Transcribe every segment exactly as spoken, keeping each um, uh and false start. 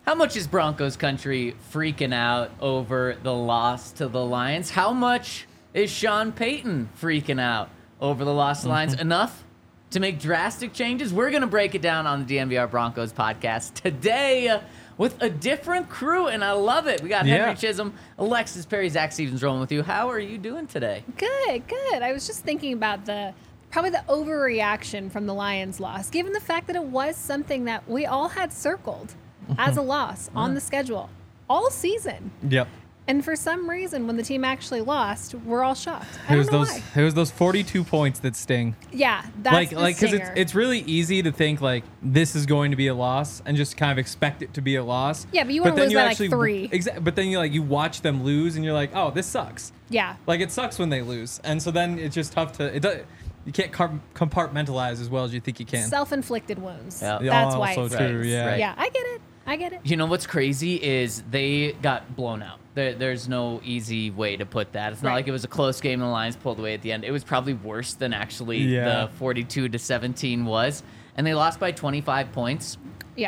How much is Broncos country freaking out over the loss to the Lions? How much is Sean Payton freaking out over the loss to the Lions? Enough to make drastic changes? We're going to break it down on the D N V R Broncos podcast today with a different crew, and I love it. We got Yeah. Henry Chisholm, Alexis Perry, Zach Stevens rolling with you. How are you doing today? Good, good. I was just thinking about the probably the overreaction from the Lions loss, given the fact that it was something that we all had circled as a loss on the schedule all season. Yep. And for some reason, when the team actually lost, we're all shocked. I It don't was know those. why. It was those forty-two points that sting. Yeah, that's like, the like, because it's stinger. it's really easy to think like this is going to be a loss and just kind of expect it to be a loss. Yeah, but you wanna then lose by, like, actually- three. Exa- but then you like you watch them lose and you're like, oh, this sucks. Yeah. Like it sucks when they lose, and so then it's just tough to. It does, you can't car- compartmentalize as well as you think you can. Self-inflicted wounds. Yeah. That's Yeah, why also it's true, right. yeah. Right. Yeah, I get it. I get it. You know what's crazy is they got blown out. There, there's no easy way to put that. It's not Right. like it was a close game and the Lions pulled away at the end. It was probably worse than actually Yeah. the forty-two to seventeen was. And they lost by twenty-five points. Yeah.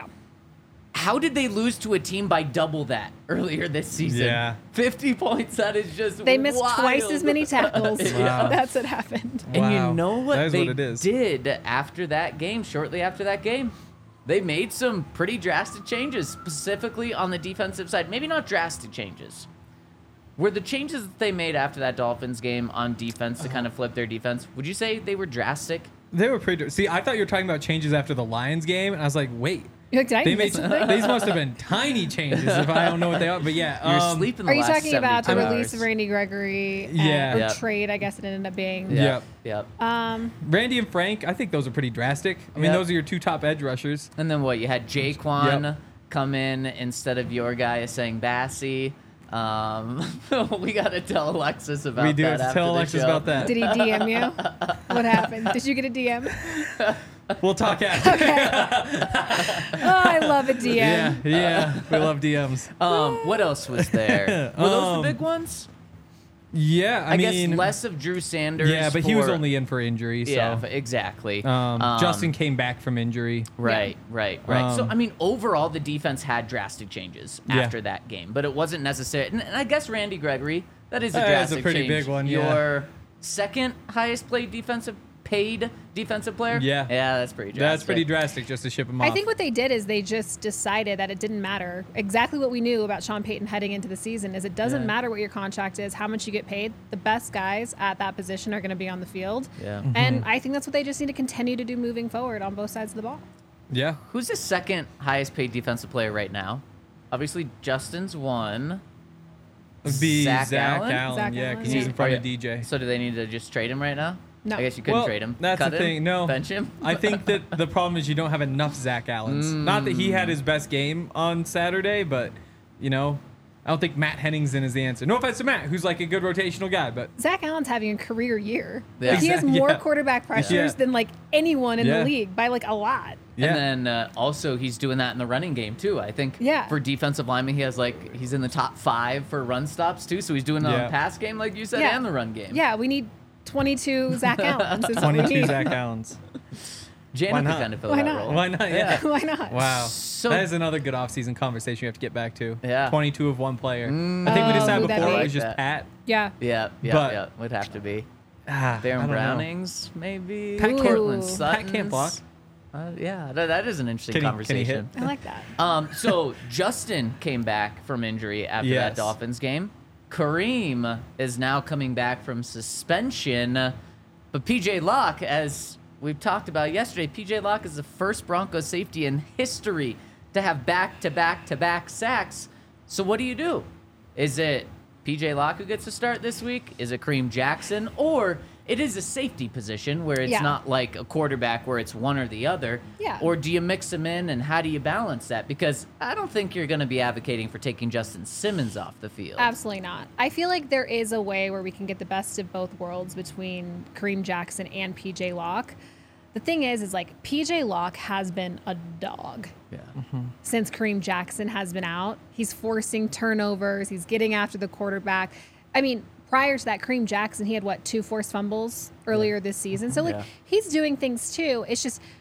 How did they lose to a team by double that earlier this season? Yeah. fifty points, that is just They missed wild. twice as many tackles. Wow. That's what happened. And Wow. you know what That is they what it is. did after that game, shortly after that game? They made some pretty drastic changes, specifically on the defensive side. Maybe not drastic changes. Were the changes that they made after that Dolphins game on defense to kind of flip their defense, would you say they were drastic? They were pretty. See, I thought you were talking about changes after the Lions game, and I was like, wait. You're like, did I They miss made something? these must have been tiny changes if I don't know what they are. But yeah, You're um, sleeping the Are you last talking about the seventy-two release hours. of Randy Gregory? and- Yeah. Or Yep. trade, I guess it ended up being. Yep. Yep. Yep. Um, Randy and Frank. I think those are pretty drastic. I mean, Yep. those are your two top edge rushers. And then what? You had Jaquan Yep. come in instead of your guy saying Bassey. Um, we got to tell Alexis about We do that have to after tell the Alexis show. about that. did he D M you? What happened? Did you get a D M? We'll talk after. Oh, I love a D M. Yeah, yeah. We love D Ms. Um, what else was there? Were those Um, the big ones? Yeah, I, I, mean, guess less of Drew Sanders. yeah, but he was for- only in for injury. So. Yeah, f- exactly. Um, Um, Justin came back from injury. Right, right, right. so Um, I mean, overall, the defense had drastic changes Yeah. after that game, but it wasn't necessary. And, and I guess Randy Gregory, that is a That is a drastic pretty change. big one, yeah. Your second highest played defensive paid defensive player. Yeah. yeah, that's pretty drastic. That's pretty drastic just to ship him off. I think what they did is they just decided that it didn't matter. Exactly what we knew about Sean Payton heading into the season is it doesn't Yeah. matter what your contract is, how much you get paid. The best guys at that position are going to be on the field. Yeah. Mm-hmm. And I think that's what they just need to continue to do moving forward on both sides of the ball. Yeah. Who's the second highest paid defensive player right now? Obviously, Justin's one. It'd be Zach Zach, Allen? Allen. Zach yeah, Allen, because yeah. he's in front Are of you- D J. So do they need to just trade him right now? No. I guess you couldn't Well, trade him. That's Cut the him? thing. No, Bench him. I think that the problem is you don't have enough Zach Allens. Not that he had his best game on Saturday, but you know, I don't think Matt Henningsen is the answer. No offense to Matt, who's like a good rotational guy, but Zach Allen's having a career year. Yeah. Like, he has Exact- more yeah. quarterback pressures Yeah. than like anyone in Yeah. the league by like a lot. yeah. And then uh, also he's doing that in the running game too. I think Yeah. for defensive linemen, he has like he's in the top five for run stops too. So he's doing it on Yeah. the pass game, like you said, Yeah. and the run game. Yeah, we need twenty-two Zach Allens. is what we twenty-two need. Zach Allens. Janet Why could not? kind of fill Why that not? role. Why not? Yeah. Why not? Wow. So- that is another good offseason conversation you have to get back to. Yeah. twenty-two of one player. I think we Oh, decided who'd that before be? it was just Like that. Pat. Yeah. Yeah, yeah, But- yeah. Would have to be Ah, I Darren don't know. Brownings, maybe. Pat can't- Cortland Pat Sutton's. can't block. Uh, yeah, that, that is an interesting Can he- can he conversation. hit? I like that. Um, so Justin came back from injury after that Yes. Dolphins game. Kareem is now coming back from suspension. But P J Locke, as we've talked about yesterday, P J Locke is the first Broncos safety in history to have back-to-back-to-back sacks. So what do you do? Is it P J Locke who gets to start this week? Is it Kareem Jackson? Or it is a safety position where it's Yeah. not like a quarterback where it's one or the other. Yeah. Or do you mix them in, and how do you balance that? Because I don't think you're going to be advocating for taking Justin Simmons off the field. Absolutely not. I feel like there is a way where we can get the best of both worlds between Kareem Jackson and P J Locke. The thing is, is like P J Locke has been a dog Yeah. since Kareem Jackson has been out. He's forcing turnovers. He's getting after the quarterback. I mean, prior to that, Kareem Jackson, he had what, two forced fumbles earlier this season. So like Yeah. he's doing things too. It's just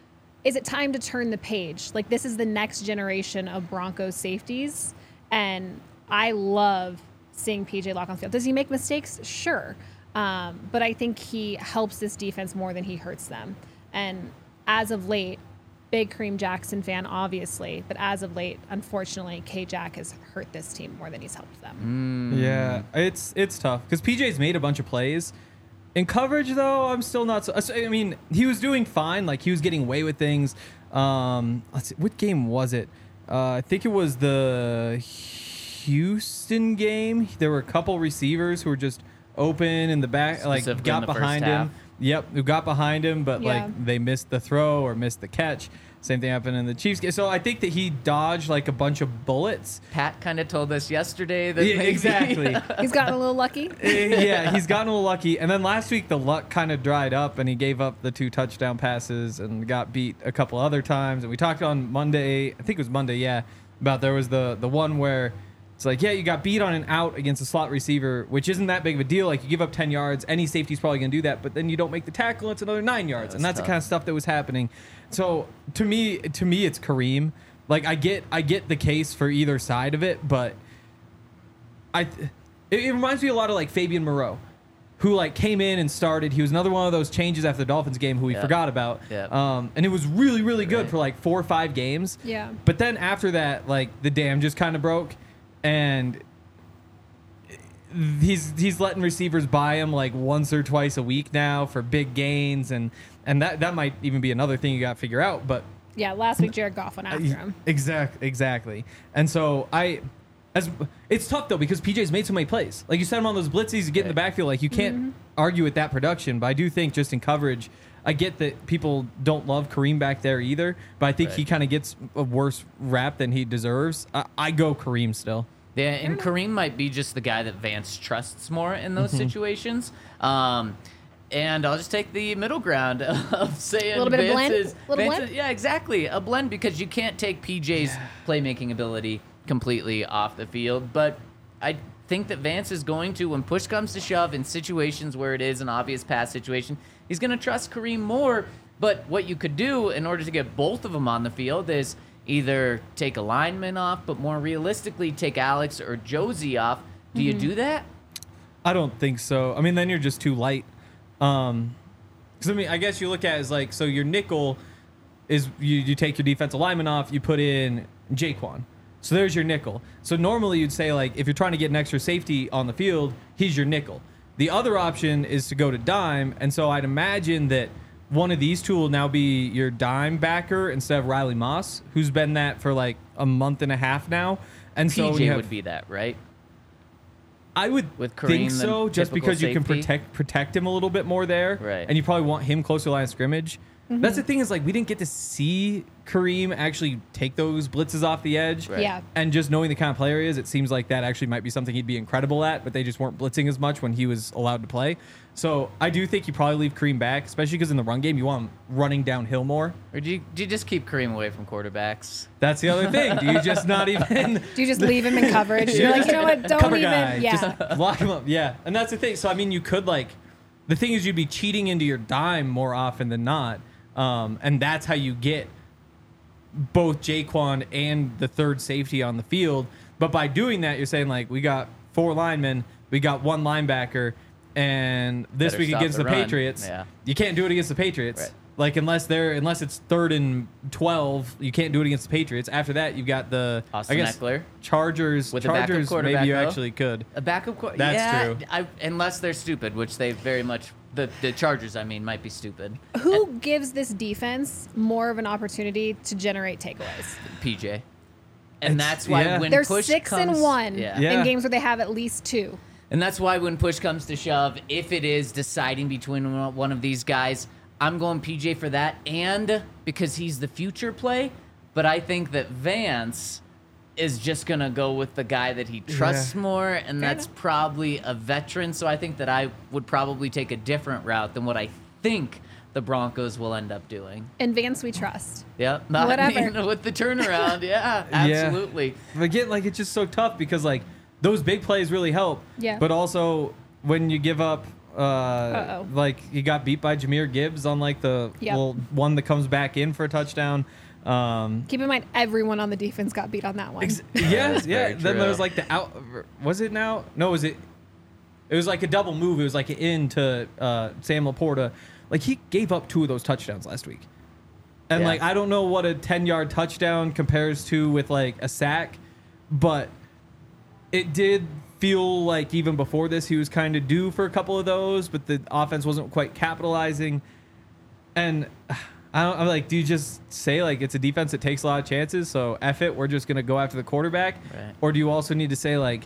is it time to turn the page? Like, this is the next generation of Broncos safeties, and I love seeing P J Locke on the field. Does he make mistakes? Sure. Um, but I think he helps this defense more than he hurts them. And as of late, big Kareem Jackson fan, obviously, but as of late, unfortunately, K-Jack has hurt this team more than he's helped them. Mm. Yeah, it's it's tough because P J's made a bunch of plays. In coverage, though, I'm still not so... I mean, he was doing fine. Like, he was getting away with things. Um, let's see, what game was it? Uh, I think it was the Houston game. There were a couple receivers who were just open in the back, like, got behind him. Yep, who got behind him, but, Yeah. like, they missed the throw or missed the catch. Same thing happened in the Chiefs game. So I think that he dodged, like, a bunch of bullets. Pat kind of told us yesterday that Yeah, maybe, exactly. He's gotten a little lucky. Yeah, he's gotten a little lucky. And then last week, the luck kind of dried up, and he gave up the two touchdown passes and got beat a couple other times. And we talked on Monday, I think it was Monday, yeah, about there was the the one where it's like, yeah, you got beat on an out against a slot receiver, which isn't that big of a deal. Like, you give up ten yards, any safety's probably going to do that, but then you don't make the tackle, it's another nine yards. Yeah, and that's tough. the kind of stuff that was happening. So to me, to me, it's Kareem. Like, I get I get the case for either side of it, but I it, it reminds me a lot of like Fabian Moreau, who like came in and started. He was another one of those changes after the Dolphins game who we Yeah. forgot about. Yeah. Um, and it was really, really good Right. for like four or five games. Yeah. But then after that, like the dam just kind of broke, and he's he's letting receivers buy him like once or twice a week now for big gains, and and that that might even be another thing you got to figure out. But Yeah, last week Jared Goff went after him. Exactly, exactly. And so I, as it's tough though because P J's made so many plays. Like you send him on those blitzes, you get in the Right. backfield. Like you can't Mm-hmm. argue with that production. But I do think just in coverage, I get that people don't love Kareem back there either. But I think Right. he kind of gets a worse rap than he deserves. I, I go Kareem still. Yeah, and Kareem might be just the guy that Vance trusts more in those Mm-hmm. situations. Um, and I'll just take the middle ground of saying A little bit of Vance blend? is, Little Vance blend? is- yeah, exactly, a blend because you can't take P J's playmaking ability completely off the field. But I think that Vance is going to, when push comes to shove in situations where it is an obvious pass situation, he's going to trust Kareem more. But what you could do in order to get both of them on the field is either take a lineman off, but more realistically, take Alex or Josie off. Do you do that? I don't think so. I mean, then you're just too light. Um, because I mean, I guess you look at it as like, so your nickel is you, you take your defensive lineman off, you put in Jaquan. So there's your nickel. So normally you'd say like, if you're trying to get an extra safety on the field, he's your nickel. The other option is to go to dime, and so I'd imagine that one of these two will now be your dime backer instead of Riley Moss, who's been that for like a month and a half now. And so when P J you have- would be that, right? I would With Kareem, think the so, just typical because you can safety? protect protect him a little bit more there, Right. and you probably want him closer to the line of scrimmage. Mm-hmm. That's the thing is like we didn't get to see Kareem actually take those blitzes off the edge, Right. Yeah. and just knowing the kind of player he is, it seems like that actually might be something he'd be incredible at. But they just weren't blitzing as much when he was allowed to play. So I do think you probably leave Kareem back, especially because in the run game you want him running downhill more. Or do you, do you just keep Kareem away from quarterbacks? That's the other thing. Do you just not even? Do you just leave him in coverage? You're like, you know what? Don't Cover even. guy, Yeah. just lock him up. Yeah, and that's the thing. So I mean, you could like, the thing is, you'd be cheating into your dime more often than not, um, and that's how you get both Jaquan and the third safety on the field. But by doing that, you're saying like, we got four linemen, we got one linebacker, and this Better week stop against the the, run. Patriots, Yeah. you can't do it against the Patriots. Right. Like unless they're unless it's third and twelve, you can't do it against the Patriots. After that, you've got the Austin I guess Eckler. Chargers. With a backup Chargers, quarterback, maybe you though. actually could. A backup quarterback? That's yeah, true. I, unless they're stupid, which they very much, the, the Chargers, I mean, might be stupid. Who gives this defense more of an opportunity to generate takeaways? P J. And It's- that's why yeah. when They're push six comes, and one Yeah. Yeah. in games where they have at least two. And that's why when push comes to shove, if it is deciding between one of these guys, I'm going P J for that, and because he's the future play. But I think that Vance is just going to go with the guy that he trusts Yeah. more, and Fair that's enough. probably a veteran. So I think that I would probably take a different route than what I think the Broncos will end up doing. And Vance, we trust. Yeah, Whatever. mean, with the turnaround, yeah, absolutely. But again, like it's just so tough because like those big plays really help. Yeah. But also when you give up Uh, Uh-oh. like he got beat by Jahmyr Gibbs on like the Yep. well, one that comes back in for a touchdown. Um, Keep in mind, everyone on the defense got beat on that one. ex- yes, yeah. very Then there was true. like the out. Was it now? No, was it? It was like a double move. It was like an in to uh, Sam Laporta. Like he gave up two of those touchdowns last week. And Yeah. like I don't know what a ten-yard touchdown compares to with like a sack, but it did feel like even before this he was kind of due for a couple of those, but the offense wasn't quite capitalizing. And I don't I'm like, do you just say like it's a defense that takes a lot of chances, so F it, we're just gonna go after the quarterback? Right. Or do you also need to say like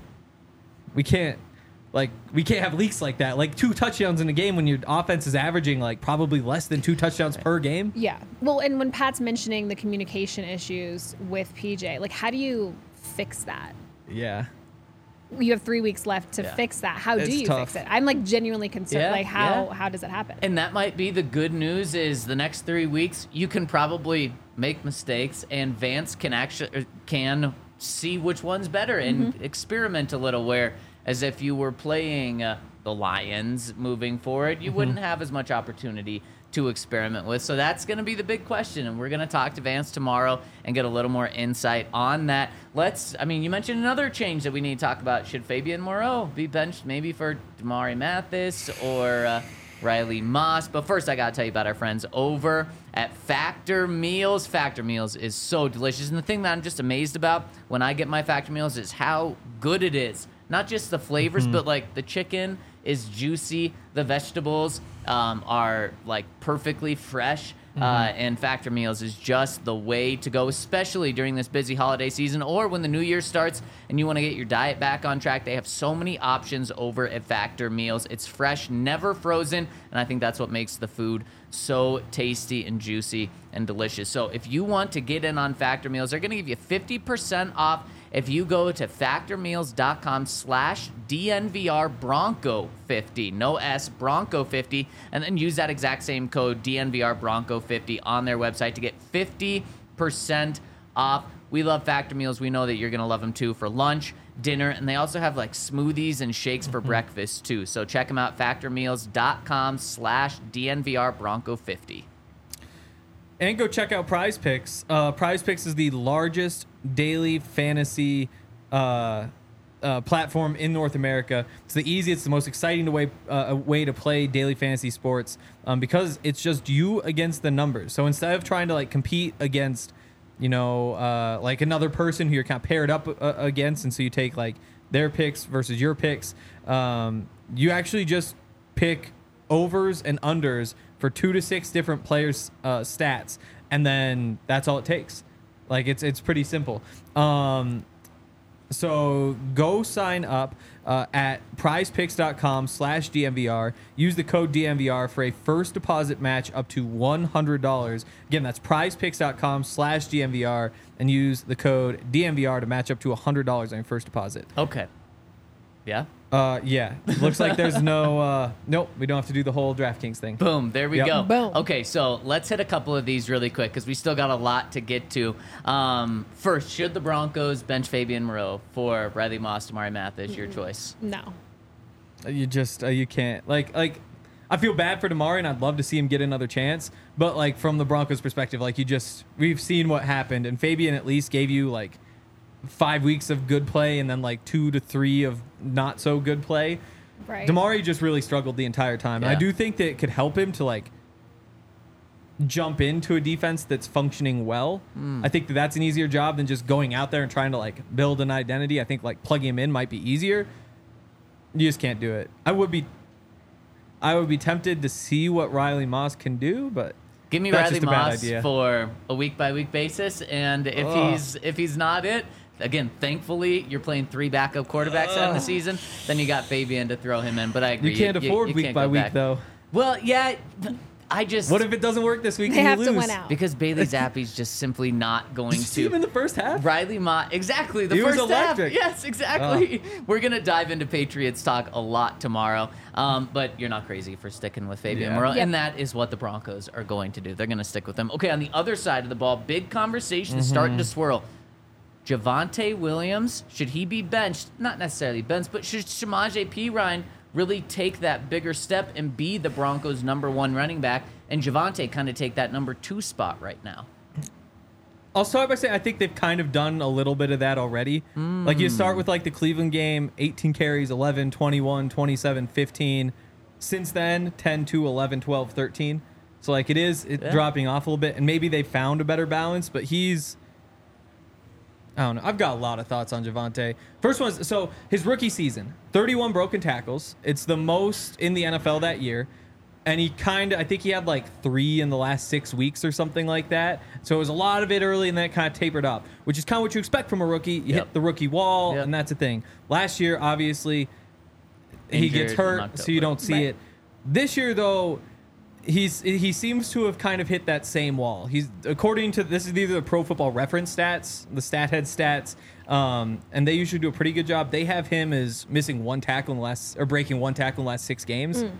we can't like we can't have leaks like that. Like two touchdowns in a game when your offense is averaging like probably less than two touchdowns per game. Yeah. Well, and when Pat's mentioning the communication issues with P J, like how do you fix that? Yeah. You have three weeks left to Yeah. fix that. How do It's you tough. fix it? I'm like genuinely concerned. Yeah, like how yeah. how does it happen? And that might be the good news is the next three weeks you can probably make mistakes and Vance can actually can see which one's better and Mm-hmm. experiment a little. Where as if you were playing uh, the Lions moving forward, you wouldn't have as much opportunity to experiment with. So that's going to be the big question, and we're going to talk to Vance tomorrow and get a little more insight on that. Let's, I mean, you mentioned another change that we need to talk about. Should Fabian Moreau be benched maybe for Damari Mathis or uh, Riley Moss? But first, I got to tell you about our friends over at Factor Meals. Factor Meals is so delicious, and the thing that I'm just amazed about when I get my Factor Meals is how good it is. Not just the flavors, but like the chicken is juicy. The vegetables um, are like perfectly fresh. Uh, and Factor Meals is just the way to go, especially during this busy holiday season or when the new year starts and you want to get your diet back on track. They have so many options over at Factor Meals. It's fresh, never frozen, and I think that's what makes the food so tasty and juicy and delicious. So if you want to get in on Factor Meals, they're going to give you fifty percent off if you go to factormeals.com slash DNVR Bronco fifty, no S, Bronco fifty, and then use that exact same code D N V R Bronco fifty on their website to get fifty percent off. We love Factor Meals. We know that you're going to love them too for lunch, dinner, and they also have like smoothies and shakes for breakfast too. So check them out, factormeals.com slash DNVR Bronco fifty. And go check out Prize Picks. Uh, Prize Picks is the largest daily fantasy uh, uh, platform in North America. It's the easiest, the most exciting way uh, way to play daily fantasy sports um, because it's just you against the numbers. So instead of trying to like compete against, you know, uh, like another person who you're kind of paired up uh, against, and so you take like their picks versus your picks, um, you actually just pick overs and unders for two to six different players' uh, stats, and then that's all it takes. Like it's it's pretty simple. Um, so go sign up uh, at prizepicks.com slash DNVR. Use the code D N V R for a first deposit match up to one hundred dollars. Again, that's prizepicks.com slash DNVR, and use the code D N V R to match up to one hundred dollars on your first deposit. Okay. Yeah? Uh, yeah. Looks like there's no, uh, nope, we don't have to do the whole DraftKings thing. Boom, there we Yep. go. Boom. Okay, so let's hit a couple of these really quick because we still got a lot to get to. Um, first, should the Broncos bench Fabian Moreau for Riley Moss, Damari Mathis? Your choice. No. You just, uh, you can't. Like, like, I feel bad for Damari, and I'd love to see him get another chance. But, like, from the Broncos' perspective, like, you just, we've seen what happened. And Fabian at least gave you, like, five weeks of good play and then, like, two to three of not so good play. Right. Damari just really struggled the entire time. And I Yeah. do think that it could help him to, like, jump into a defense that's functioning well. I think that that's an easier job than just going out there and trying to, like, build an identity. I think, like, plugging him in might be easier. You just can't do it. I would be I would be tempted to see what Riley Moss can do, but Give me that's Riley just a bad Moss idea. for a week by week basis, and if Ugh. he's if he's not it, again, thankfully you're playing three backup quarterbacks out in the season. Then you got Fabian to throw him in. But I agree, you can't afford week can't by go week back. though. Well, yeah, I just What if it doesn't work this week They and have you to lose? win out. because Bailey Zappi's just simply not going Did you see him in to. the first half? Riley Moss, exactly. The He was first half. electric. Yes, exactly. We're gonna dive into Patriots talk a lot tomorrow, um, but you're not crazy for sticking with Fabian Yeah. Moreau, Yep. and that is what the Broncos are going to do. They're gonna stick with him. Okay, on the other side of the ball, big conversation is starting to Mm-hmm. swirl. Javonte Williams, should he be benched? Not necessarily benched, but should Shamaje P. Ryan really take that bigger step and be the Broncos' number one running back, and Javonte kind of take that number two spot right now. I'll start by saying I think they've kind of done a little bit of that already. Mm. Like you start with like the Cleveland game, eighteen carries, eleven, twenty-one, twenty-seven, fifteen. Since then, ten, two, eleven, twelve, thirteen. So like it is it yeah. dropping off a little bit, and maybe they found a better balance, but he's I don't know. I've got a lot of thoughts on Javonte. First one is, so his rookie season, thirty-one broken tackles. It's the most in the N F L that year. And he kind of, I think he had like three in the last six weeks or something like that. So it was a lot of it early and then it kind of tapered up, which is kind of what you expect from a rookie. You Yep. hit the rookie wall, Yep. and that's a thing. Last year, obviously, he Injured gets in hurt, October. so you don't see Right. it. This year, though, he's he seems to have kind of hit that same wall. He's according to this is either the Pro Football Reference stats, the StatHead stats, um, and they usually do a pretty good job. They have him as missing one tackle in the last or breaking one tackle in the last six games. Mm.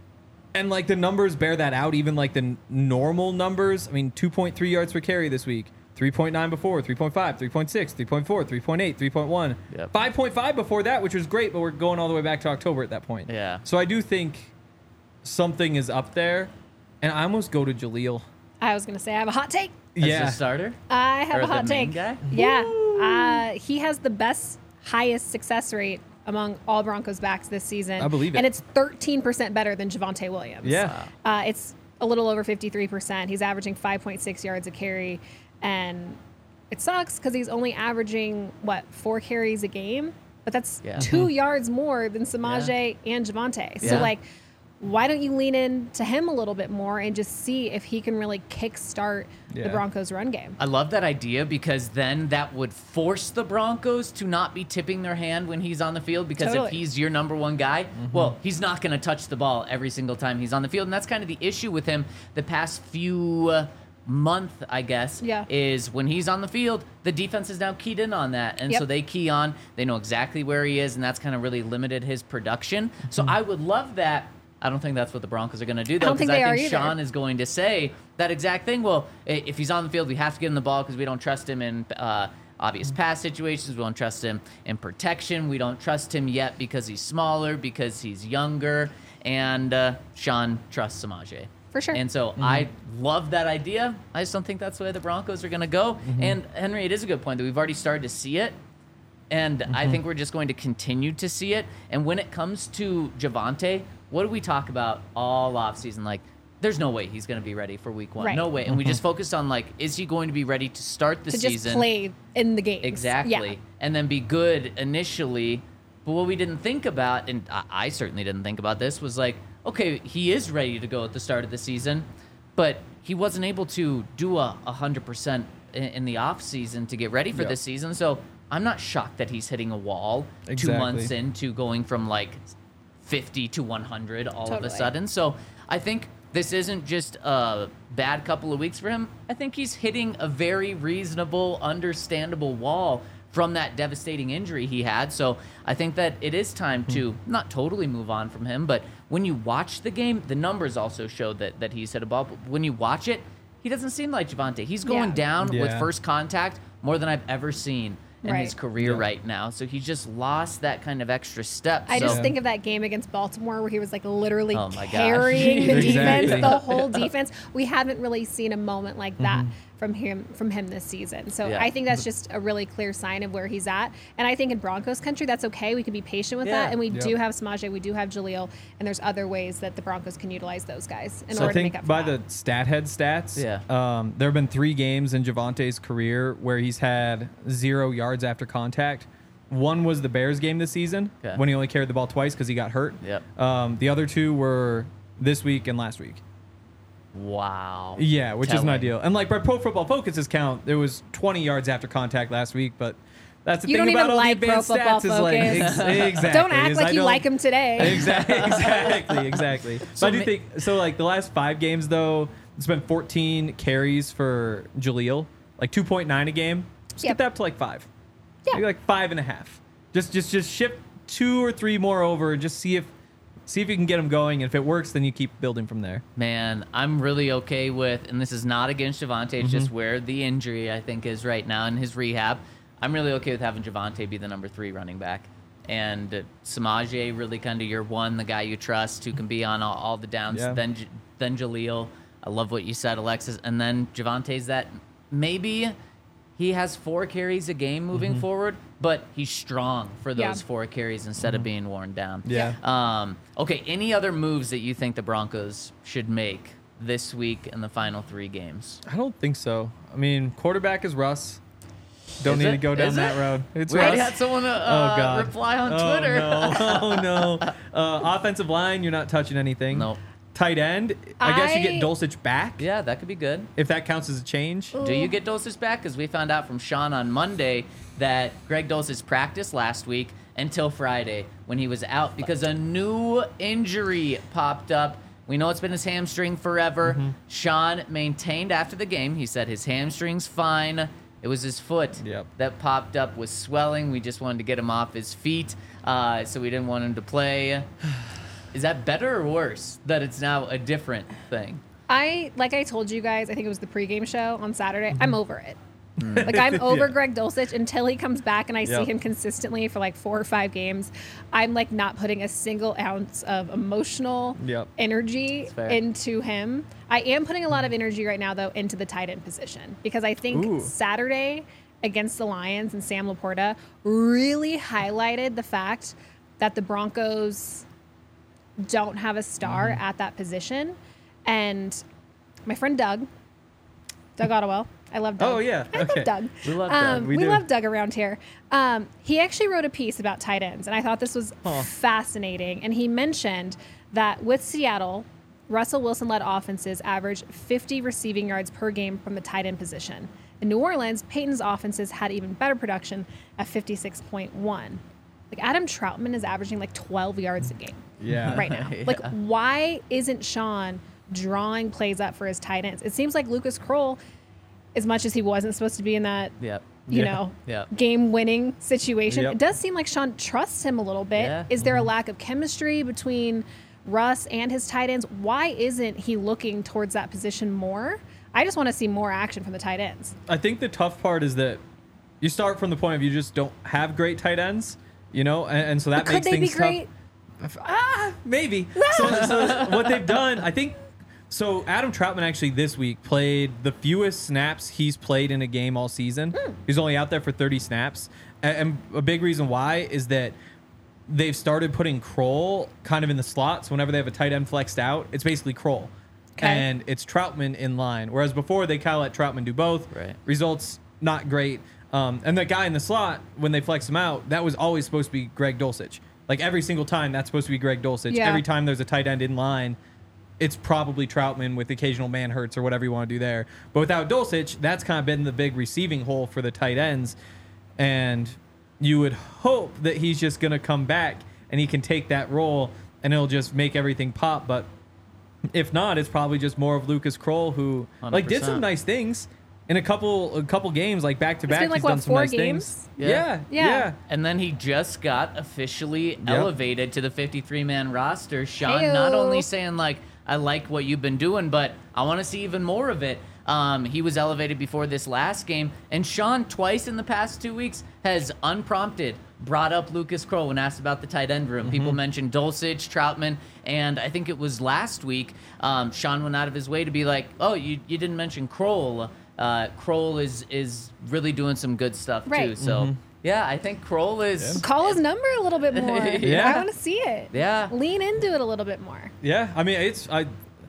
And like the numbers bear that out, even like the n- normal numbers. I mean, two point three yards per carry this week, three point nine before, three point five, three point six, three point four, three point eight, three point one, Yep. five point five before that, which was great, but we're going all the way back to October at that point. Yeah. So I do think something is up there, and I almost go to Jaleel. I was going to say I have a hot take. As yeah. the starter? I have Or a hot the main take. guy? Yeah. Uh, he has the best, highest success rate among all Broncos backs this season. I believe it. And it's thirteen percent better than Javonte Williams. Yeah. Uh, it's a little over fifty-three percent. He's averaging five point six yards a carry. And it sucks because he's only averaging, what, four carries a game? But that's Yeah. two yards more than Samaje and Javonte. So, Yeah. like, why don't you lean into him a little bit more and just see if he can really kickstart Yeah. the Broncos' run game? I love that idea because then that would force the Broncos to not be tipping their hand when he's on the field because Totally. if he's your number one guy, well, he's not going to touch the ball every single time he's on the field. And that's kind of the issue with him the past few uh, month, I guess, Yeah. is when he's on the field, the defense is now keyed in on that. And Yep. so they key on, they know exactly where he is, and that's kind of really limited his production. So I would love that. I don't think that's what the Broncos are going to do, though, don't think because I they think are either. Sean is going to say that exact thing. Well, i- if he's on the field, we have to give him the ball because we don't trust him in uh, obvious pass situations. We don't trust him in protection. We don't trust him yet because he's smaller, because he's younger, and uh, Sean trusts Samaje. For sure. And so I love that idea. I just don't think that's the way the Broncos are going to go. And Henry, it is a good point that we've already started to see it. And I think we're just going to continue to see it. And when it comes to Javonte, what do we talk about all offseason? Like, there's no way he's going to be ready for week one. Right. No way. And we just focused on, like, is he going to be ready to start the to season? just play in the games. Exactly. Yeah. And then be good initially. But what we didn't think about, and I, I certainly didn't think about this, was like, okay, he is ready to go at the start of the season, but he wasn't able to do a one hundred percent in, in the off season to get ready for Yep. this season. So I'm not shocked that he's hitting a wall two Exactly. months into going from like fifty to one hundred all of a Totally. sudden. So I think this isn't just a bad couple of weeks for him. I think he's hitting a very reasonable, understandable wall from that devastating injury he had. So I think that it is time to not totally move on from him, but when you watch the game, the numbers also show that, that he's hit a ball. But when you watch it, he doesn't seem like Javonte. He's going Yeah. down with Yeah. first contact more than I've ever seen in his Right. career Yeah. right now. So he just lost that kind of extra step. I so, just think of that game against Baltimore where he was like literally Oh my gosh. carrying the Exactly. defense, the whole defense. We haven't really seen a moment like that from him from him this season. So Yeah. I think that's just a really clear sign of where he's at. And I think in Broncos country, that's okay. We can be patient with Yeah. that. And we Yep. do have Samaje, we do have Jaleel, and there's other ways that the Broncos can utilize those guys in So order I to make think up for by that. the StatHead stats, Yeah. um, there have been three games in Javante's career where he's had zero yards after contact. One was the Bears game this season Okay. when he only carried the ball twice because he got hurt. Yep. Um, the other two were this week and last week. wow. Yeah, which isn't Telling. ideal. And like by Pro Football Focus's count, there was twenty yards after contact last week, but that's the You thing don't about even all like the Pro advanced Football stats is like Focus. ex- exactly. Don't act is like I you don't- like him today. Exactly, exactly, exactly. So So I do ma- think so. Like the last five games, though, it's been fourteen carries for Jaleel, like two point nine a game. Just Yep. get that up to like five. Yeah. Maybe like five and a half. Just, just, just shift two or three more over and just see if, see if you can get them going. And if it works, then you keep building from there. Man, I'm really okay with, and this is not against Javonte, it's just where the injury, I think, is right now in his rehab. I'm really okay with having Javonte be the number three running back. and Samaje really kind of your one, the guy you trust who can be on all, all the downs. Yeah. Then J- then Jaleel. I love what you said, Alexis. And then Javante's that maybe he has four carries a game moving Mm-hmm. forward, but he's strong for those Yeah. four carries instead of being worn down. Yeah. Um, okay, any other moves that you think the Broncos should make this week in the final three games? I don't think so. I mean, quarterback is Russ. Don't Is need it? to go down Is that it? road. It's We already Russ. had someone uh, Oh God! reply on oh, Twitter. No. Oh no! Uh, offensive line, you're not touching anything. Nope. Tight end, I, guess you I- get Dulcich back Yeah, that could be good. if that counts as a change. Do you get Dulcich back? Because we found out from Sean on Monday that Greg Dulcich practiced last week until Friday when he was out because a new injury popped up. We know it's been his hamstring forever. Mm-hmm. Sean maintained after the game. He said his hamstring's fine. It was his foot Yep. that popped up with swelling. We just wanted to get him off his feet, uh, so we didn't want him to play. Is that better or worse that it's now a different thing? I like I told you guys, I think it was the pregame show on Saturday. Mm-hmm. I'm over it. Like I'm over Yeah. Greg Dulcich until he comes back and I see Yep. him consistently for like four or five games. I'm like not putting a single ounce of emotional Yep. energy That's fair. into him. I am putting a lot of energy right now though into the tight end position because I think Ooh. Saturday against the Lions and Sam Laporta really highlighted the fact that the Broncos don't have a star Mm-hmm. at that position. And my friend Doug, Doug Ottawell, I love Doug. Oh, yeah. I Okay. love Doug. We love Doug. Um, We we do. love Doug around here. Um, he actually wrote a piece about tight ends, and I thought this was Huh. fascinating. And he mentioned that with Seattle, Russell Wilson-led offenses averaged fifty receiving yards per game from the tight end position. In New Orleans, Peyton's offenses had even better production at fifty-six point one. Like Adam Troutman is averaging like twelve yards a game Yeah. right now. Like, why isn't Sean drawing plays up for his tight ends? It seems like Lucas Kroll, as much as he wasn't supposed to be in that, Yep. you Yeah. know, Yep. game-winning situation, Yep. it does seem like Sean trusts him a little bit. Yeah. Is there a lack of chemistry between Russ and his tight ends? Why isn't he looking towards that position more? I just want to see more action from the tight ends. I think the tough part is that you start from the point of you just don't have great tight ends, you know, and, and so that But makes could they be things great? tough. Ah, maybe. so, so what they've done, I think. So Adam Troutman actually this week played the fewest snaps he's played in a game all season. Hmm. He's only out there for thirty snaps, and, and a big reason why is that they've started putting Kroll kind of in the slot. So whenever they have a tight end flexed out, it's basically Kroll. Okay. And it's Troutman in line. Whereas before, they kind of let Troutman do both. Right. Results not great. Um, and the guy in the slot, when they flex him out, that was always supposed to be Greg Dulcich. Like every single time, that's supposed to be Greg Dulcich. Yeah. Every time there's a tight end in line, it's probably Troutman with occasional man hurts or whatever you want to do there. But without Dulcich, that's kind of been the big receiving hole for the tight ends. And you would hope that he's just going to come back and he can take that role and it'll just make everything pop. But if not, it's probably just more of Lucas Kroll who like did some one hundred percent. nice things in a couple a couple games, like back to It's back. been like, He's what, done some four nice games? things. Yeah. Yeah, Yeah. yeah. And then he just got officially elevated to the fifty-three man roster. Sean Heyo. not only saying like, I like what you've been doing, but I want to see even more of it. Um, he was elevated before this last game, and Sean twice in the past two weeks has unprompted brought up Lucas Kroll when asked about the tight end room. People mentioned Dulcich, Troutman, and I think it was last week. Um, Sean went out of his way to be like, "Oh, you, you didn't mention Kroll. Uh, Kroll is is really doing some good stuff too." Right. So yeah, I think Kroll is. Call his number a little bit more. Yeah. I want to see it. Yeah. Lean into it a little bit more. Yeah, I mean, it's I.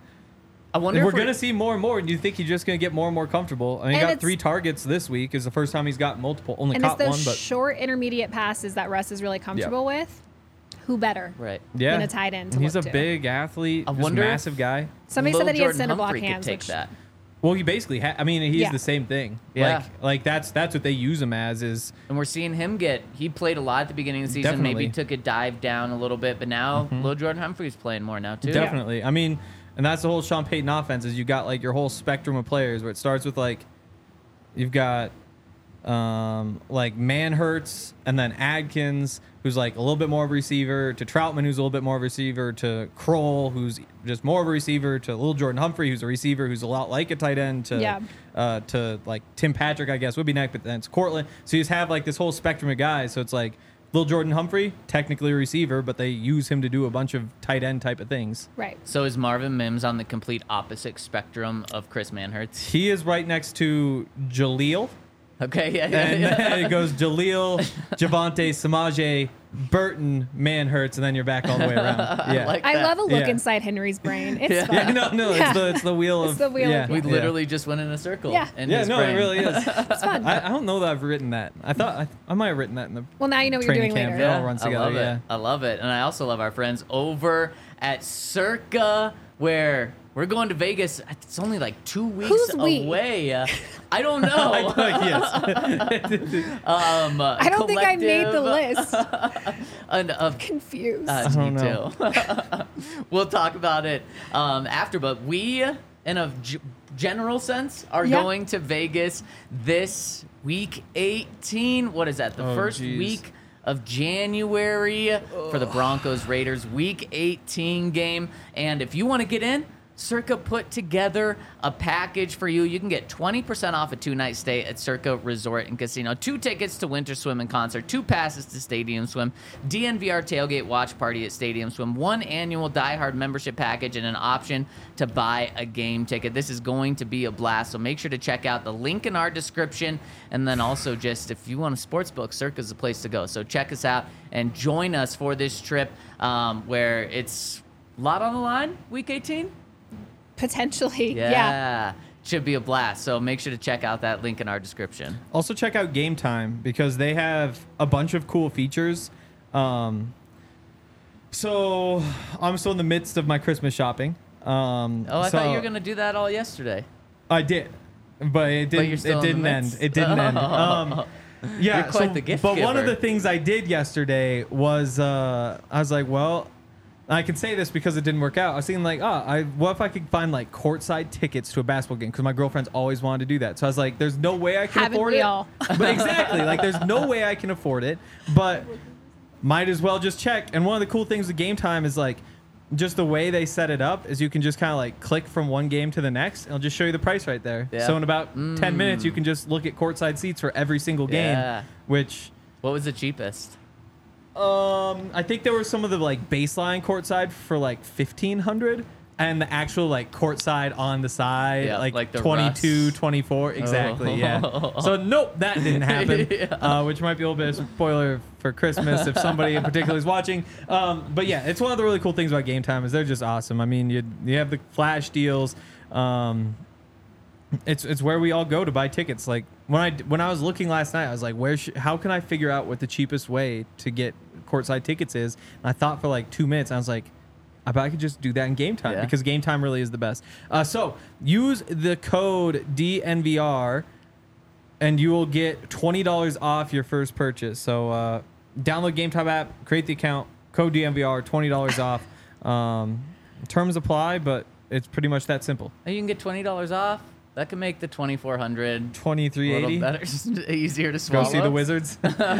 I wonder We're if gonna see more and more. And you think he's just gonna get more and more comfortable? I mean, he And got it's- three targets this week. Is the first time he's got multiple. Only And it's caught those one, but short intermediate passes that Russ is really comfortable with. Who better right. yeah, than a tight end to And he's a look to? big athlete, I just wonder if- massive guy. Somebody Lil said that he had Jordan cinder block Humphrey could hands, take which that. Well, he basically. Ha- I mean, he's Yeah. the same thing. Yeah. Like, like that's that's what they use him as. Is And we're seeing him get. He played a lot at the beginning of the season. Definitely. Maybe took a dive down a little bit, but now Lil Jordan Humphrey's playing more now too. definitely. I mean, and that's the whole Sean Payton offense. Is you got like your whole spectrum of players where it starts with like, you've got, um, like Manhurts and then Adkins, who's like a little bit more of a receiver, to Troutman, who's a little bit more of a receiver, to Kroll, who's just more of a receiver, to Lil Jordan Humphrey, who's a receiver, who's a lot like a tight end, to Yeah. uh, to like Tim Patrick, I guess would be next, but then it's Cortland. So you just have like this whole spectrum of guys. So it's like Lil Jordan Humphrey, technically a receiver, but they use him to do a bunch of tight end type of things. Right. So is Marvin Mims on the complete opposite spectrum of Chris Manhertz? He is right next to Jaleel. Okay, yeah, yeah, And yeah. then it goes Jaleel, Javante, Samaje, Burton, Manhertz, and then you're back all the way around. Yeah. like I that. love a look Yeah. inside Henry's brain. It's Yeah. fun. yeah, no, no, Yeah. it's the it's the wheel It's of the wheel yeah, of- We Yeah. literally just went in a circle. Yeah. In Yeah, his no, brain. it really is. It's fun. I, I don't know that I've written that. I thought I, I might have written that in the Well, now you know what you're training doing camp. later. It all runs I together, love yeah. it. I love it. And I also love our friends over at Circa, where we're going to Vegas. It's only like two weeks Who's we? away. Uh, I don't know. I know, yes. um, uh, I don't think I made the collective- list. and, of Confused. Uh, I me don't know. too. We'll talk about it um, after, but we, in a g- general sense, are Yeah. going to Vegas this week eighteen. What is that? The Oh, first geez. week of January for the Broncos Raiders week eighteen game. And if you want to get in, Circa put together a package for you. You can get twenty percent off a two-night stay at Circa Resort and Casino, two tickets to Winter Swim and Concert, two passes to Stadium Swim, D N V R tailgate watch party at Stadium Swim, one annual Die Hard membership package, and an option to buy a game ticket. This is going to be a blast, so make sure to check out the link in our description, and then also just if you want a sports book, Circa's the place to go. So check us out and join us for this trip um, where it's a lot on the line, week eighteen. Potentially. Yeah. Yeah. Should be a blast. So make sure to check out that link in our description. Also check out Game Time because they have a bunch of cool features. Um, so I'm still in the midst of my Christmas shopping. Um, Oh, I so thought you were going to do that all yesterday. I did, but it didn't. you're still it in the didn't end. midst? It didn't end. Um, yeah, You're quite so- the gift But one of giver. the things I did yesterday was uh, I was like, well, I can say this because it didn't work out. I was thinking like, oh, I what if I could find like courtside tickets to a basketball game? Because my girlfriend's always wanted to do that. So I was like, there's no way I can Haven't afford we it. all? But exactly, like there's no way I can afford it. But might as well just check. And one of the cool things with Game Time is like, just the way they set it up is you can just kind of like click from one game to the next. And it'll just show you the price right there. Yeah. So in about ten minutes, you Mm. can just look at courtside seats for every single game. Yeah. Which What was the cheapest? um, I think there were some of the like baseline courtside for like fifteen hundred, and the actual like courtside on the side Yeah, like, like the twenty-two, Russ. twenty-four, exactly. Oh. Yeah. So nope, that didn't happen. Yeah. uh, which might be a little bit of a spoiler for Christmas if somebody in particular is watching. Um, but yeah, it's one of the really cool things about Game Time is they're just awesome. I mean, you you have the flash deals. Um, it's it's where we all go to buy tickets. Like when I when I was looking last night, I was like, where sh- how can I figure out what the cheapest way to get courtside tickets is? And I thought for like two minutes, I was like, I bet I could just do that in Game Time Yeah. because Game Time really is the best. Uh, so use the code D N V R and you will get twenty dollars off your first purchase. So uh, download Game Time app, create the account, code D N V R, twenty dollars off. Um, terms apply, but it's pretty much that simple. Oh, you can get twenty dollars off. That could make the twenty-four hundred a twenty-three little eighty. better, easier to Go swallow. see the Wizards.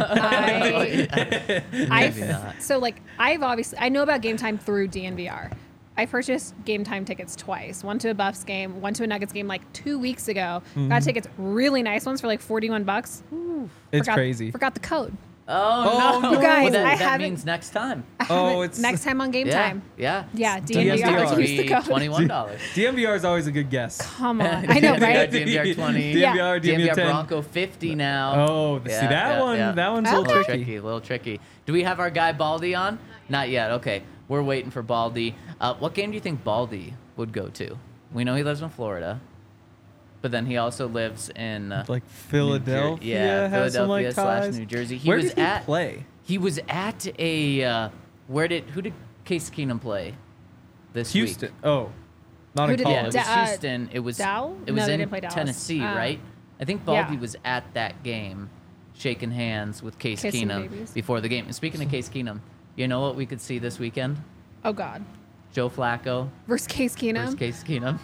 I, Maybe I've, not. so like I've obviously I know about Game Time through D N V R. I purchased Game Time tickets twice. One to a Buffs game, one to a Nuggets game like two weeks ago. Got tickets, really nice ones for like forty-one bucks. It's Forgot- crazy. Forgot the code. Oh, Oh, no. You guys, Well, that, I that haven't- means next time. I Oh, haven't- it's- next time on Game Yeah. Time. Yeah. Yeah, D N V R. D N V R. Use the Be code. twenty-one dollars. D M V R is always a good guess. Come on, I know, right? D N V R twenty. D M V R, D N V R ten. Bronco fifty now. Oh, see that one? That one's a Okay. little little tricky. tricky. A little tricky. Do we have our guy Baldy on? Not yet. Okay, we're waiting for Baldy. Uh, what game do you think Baldy would go to? We know he lives in Florida, but then he also lives in uh, Like New Jer- Philadelphia yeah, has some Philadelphia like slash ties. New Jersey. He Where was did he at play? He was at a uh, where did who did Case Keenum play this Houston. week? Oh, not Who in did- Yeah, it college. was Da- uh, Houston. It was Dow? it was No, they in didn't play Dallas. Tennessee, Uh, right? I think Baldy yeah. was at that game, shaking hands with Case Kissing Keenum babies. before the game. And speaking of Case Keenum, you know what we could see this weekend? Oh God. Joe Flacco Versus Case Keenum. versus Case Keenum.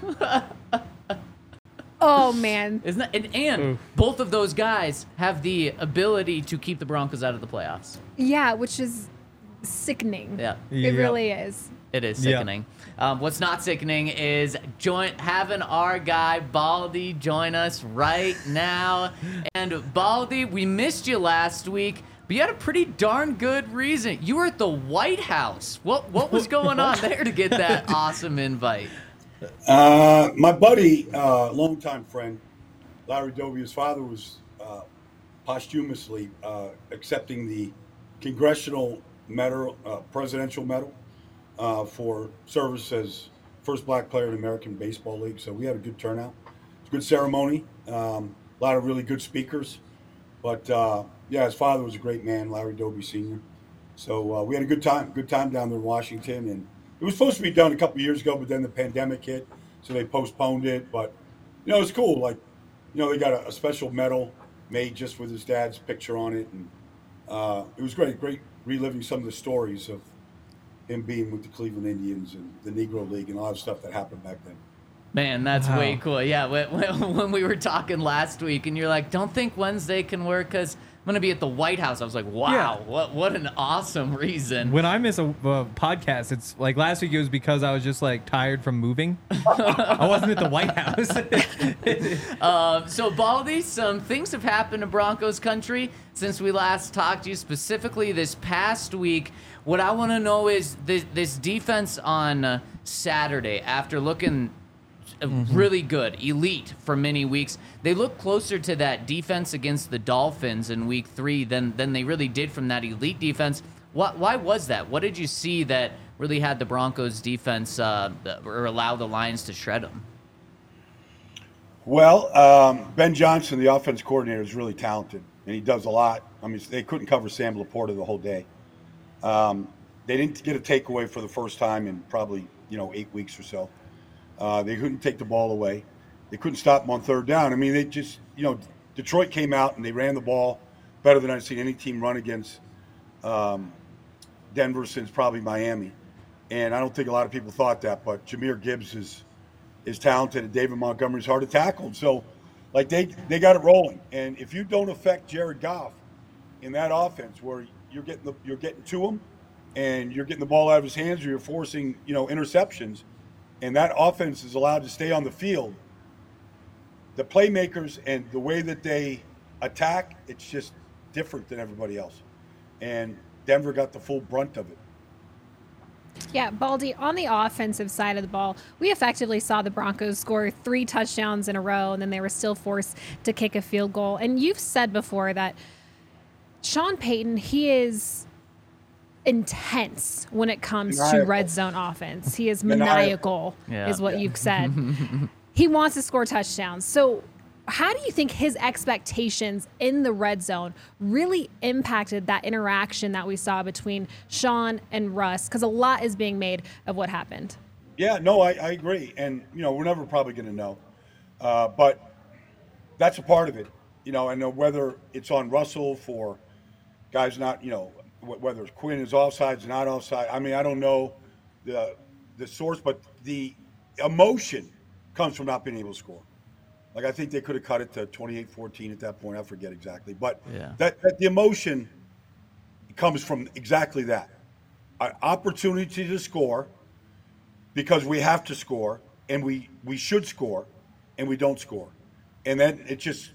Oh man. Isn't that, and, and Oof. both of those guys have the ability to keep the Broncos out of the playoffs. Yeah, which is sickening. Yeah. It Yep. really is. It is Yeah. sickening. Um, what's not sickening is join having our guy Baldy join us right now. And Baldy, we missed you last week, but you had a pretty darn good reason. You were at the White House. What what was going on there to get that awesome invite? Uh, my buddy, uh, longtime friend, Larry Doby, his father was uh, posthumously uh, accepting the Congressional Medal, uh, Presidential Medal uh, for service as first black player in the American Baseball League. So we had a good turnout. It's a good ceremony. Um, a lot of really good speakers. But uh, yeah, his father was a great man, Larry Doby Senior So uh, we had a good time, good time down there in Washington. And it was supposed to be done a couple of years ago, but then the pandemic hit, so they postponed it. But, you know, it's cool. Like, you know, they got a, a special medal made just with his dad's picture on it. And uh, it was great, great reliving some of the stories of him being with the Cleveland Indians and the Negro League and a lot of stuff that happened back then. Man, that's Wow. way cool. Yeah, when, when, when we were talking last week and you're like, don't think Wednesday can work because I'm going to be at the White House. I was like, wow, Yeah. what what an awesome reason. When I miss a, a podcast, it's like last week it was because I was just like tired from moving. I wasn't at the White House. Um, so, Baldy, some things have happened in Broncos country since we last talked to you, specifically this past week. What I want to know is this, this defense on uh, Saturday, after looking uh, really good, elite for many weeks, they look closer to that defense against the Dolphins in week three than, than they really did from that elite defense. What, why was that? What did you see that really had the Broncos defense uh, or allow the Lions to shred them? Well, um, Ben Johnson, the offense coordinator, is really talented, and he does a lot. I mean, they couldn't cover Sam Laporta the whole day. Um, they didn't get a takeaway for the first time in probably, you know, eight weeks or so. Uh, they couldn't take the ball away. They couldn't stop them on third down. I mean, they just, you know, Detroit came out and they ran the ball better than I've seen any team run against um, Denver since probably Miami. And I don't think a lot of people thought that, but Jahmyr Gibbs is is talented and David Montgomery's hard to tackle. So, like, they, they got it rolling. And if you don't affect Jared Goff in that offense where you're getting the, you're getting to him and you're getting the ball out of his hands or you're forcing, you know, interceptions, and that offense is allowed to stay on the field, the playmakers and the way that they attack, it's just different than everybody else. And Denver got the full brunt of it. Yeah, Baldy, on the offensive side of the ball, we effectively saw the Broncos score three touchdowns in a row, and then they were still forced to kick a field goal. And you've said before that Sean Payton, he is intense when it comes Maniacal. to red zone offense. He is Maniacal. maniacal, Yeah. is what Yeah. you've said. He wants to score touchdowns. So how do you think his expectations in the red zone really impacted that interaction that we saw between Sean and Russ? Because a lot is being made of what happened. Yeah, no, I, I agree. And, you know, we're never probably going to know. Uh, but that's a part of it. You know, and whether it's on Russell for guys not, you know, whether it's Quinn is offsides, not offside. I mean, I don't know the the source, but the emotion comes from not being able to score. Like, I think they could have cut it to twenty-eight fourteen at that point. I forget exactly. But Yeah. that, that the emotion comes from exactly that. An opportunity to score because we have to score and we, we should score and we don't score. And then it just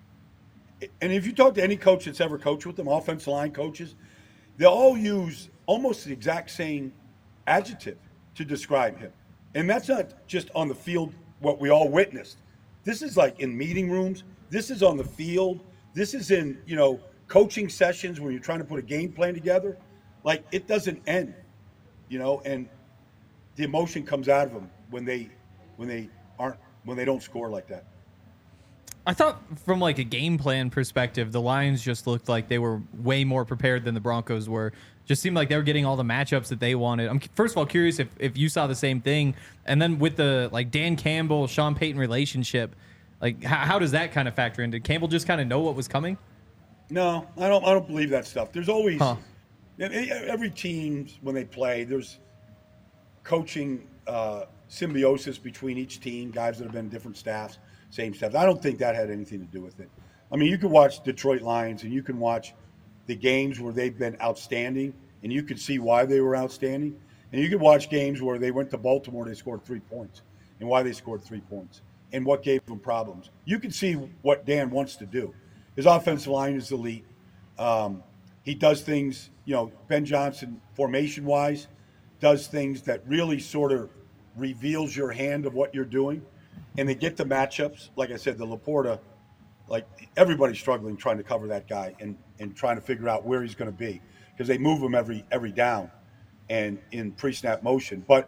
– and if you talk to any coach that's ever coached with them, offensive line coaches, they all use almost the exact same adjective to describe him. And that's not just on the field, what we all witnessed. This is like in meeting rooms. This is on the field. This is in, you know, coaching sessions when you're trying to put a game plan together. Like, it doesn't end, you know, and the emotion comes out of them when they when they aren't when they don't score like that. I thought from like a game plan perspective, the Lions just looked like they were way more prepared than the Broncos were. Just seemed like they were getting all the matchups that they wanted. I'm first of all curious if, if you saw the same thing. And then with the like Dan Campbell, Sean Payton relationship, like how, how does that kind of factor in? Did Campbell just kind of know what was coming? No, I don't. I don't believe that stuff. There's always Huh. every team when they play. There's coaching uh, symbiosis between each team. Guys that have been different staffs, same staff. I don't think that had anything to do with it. I mean, you can watch Detroit Lions and you can watch the games where they've been outstanding, and you can see why they were outstanding. And you can watch games where they went to Baltimore, they scored three points, and why they scored three points, and what gave them problems. You can see what Dan wants to do. His offensive line is elite. Um, he does things, you know, Ben Johnson formation wise, does things that really sort of reveals your hand of what you're doing. And they get the matchups. Like I said, the Laporta, like everybody's struggling trying to cover that guy and, and trying to figure out where he's going to be because they move him every every down and in pre-snap motion. But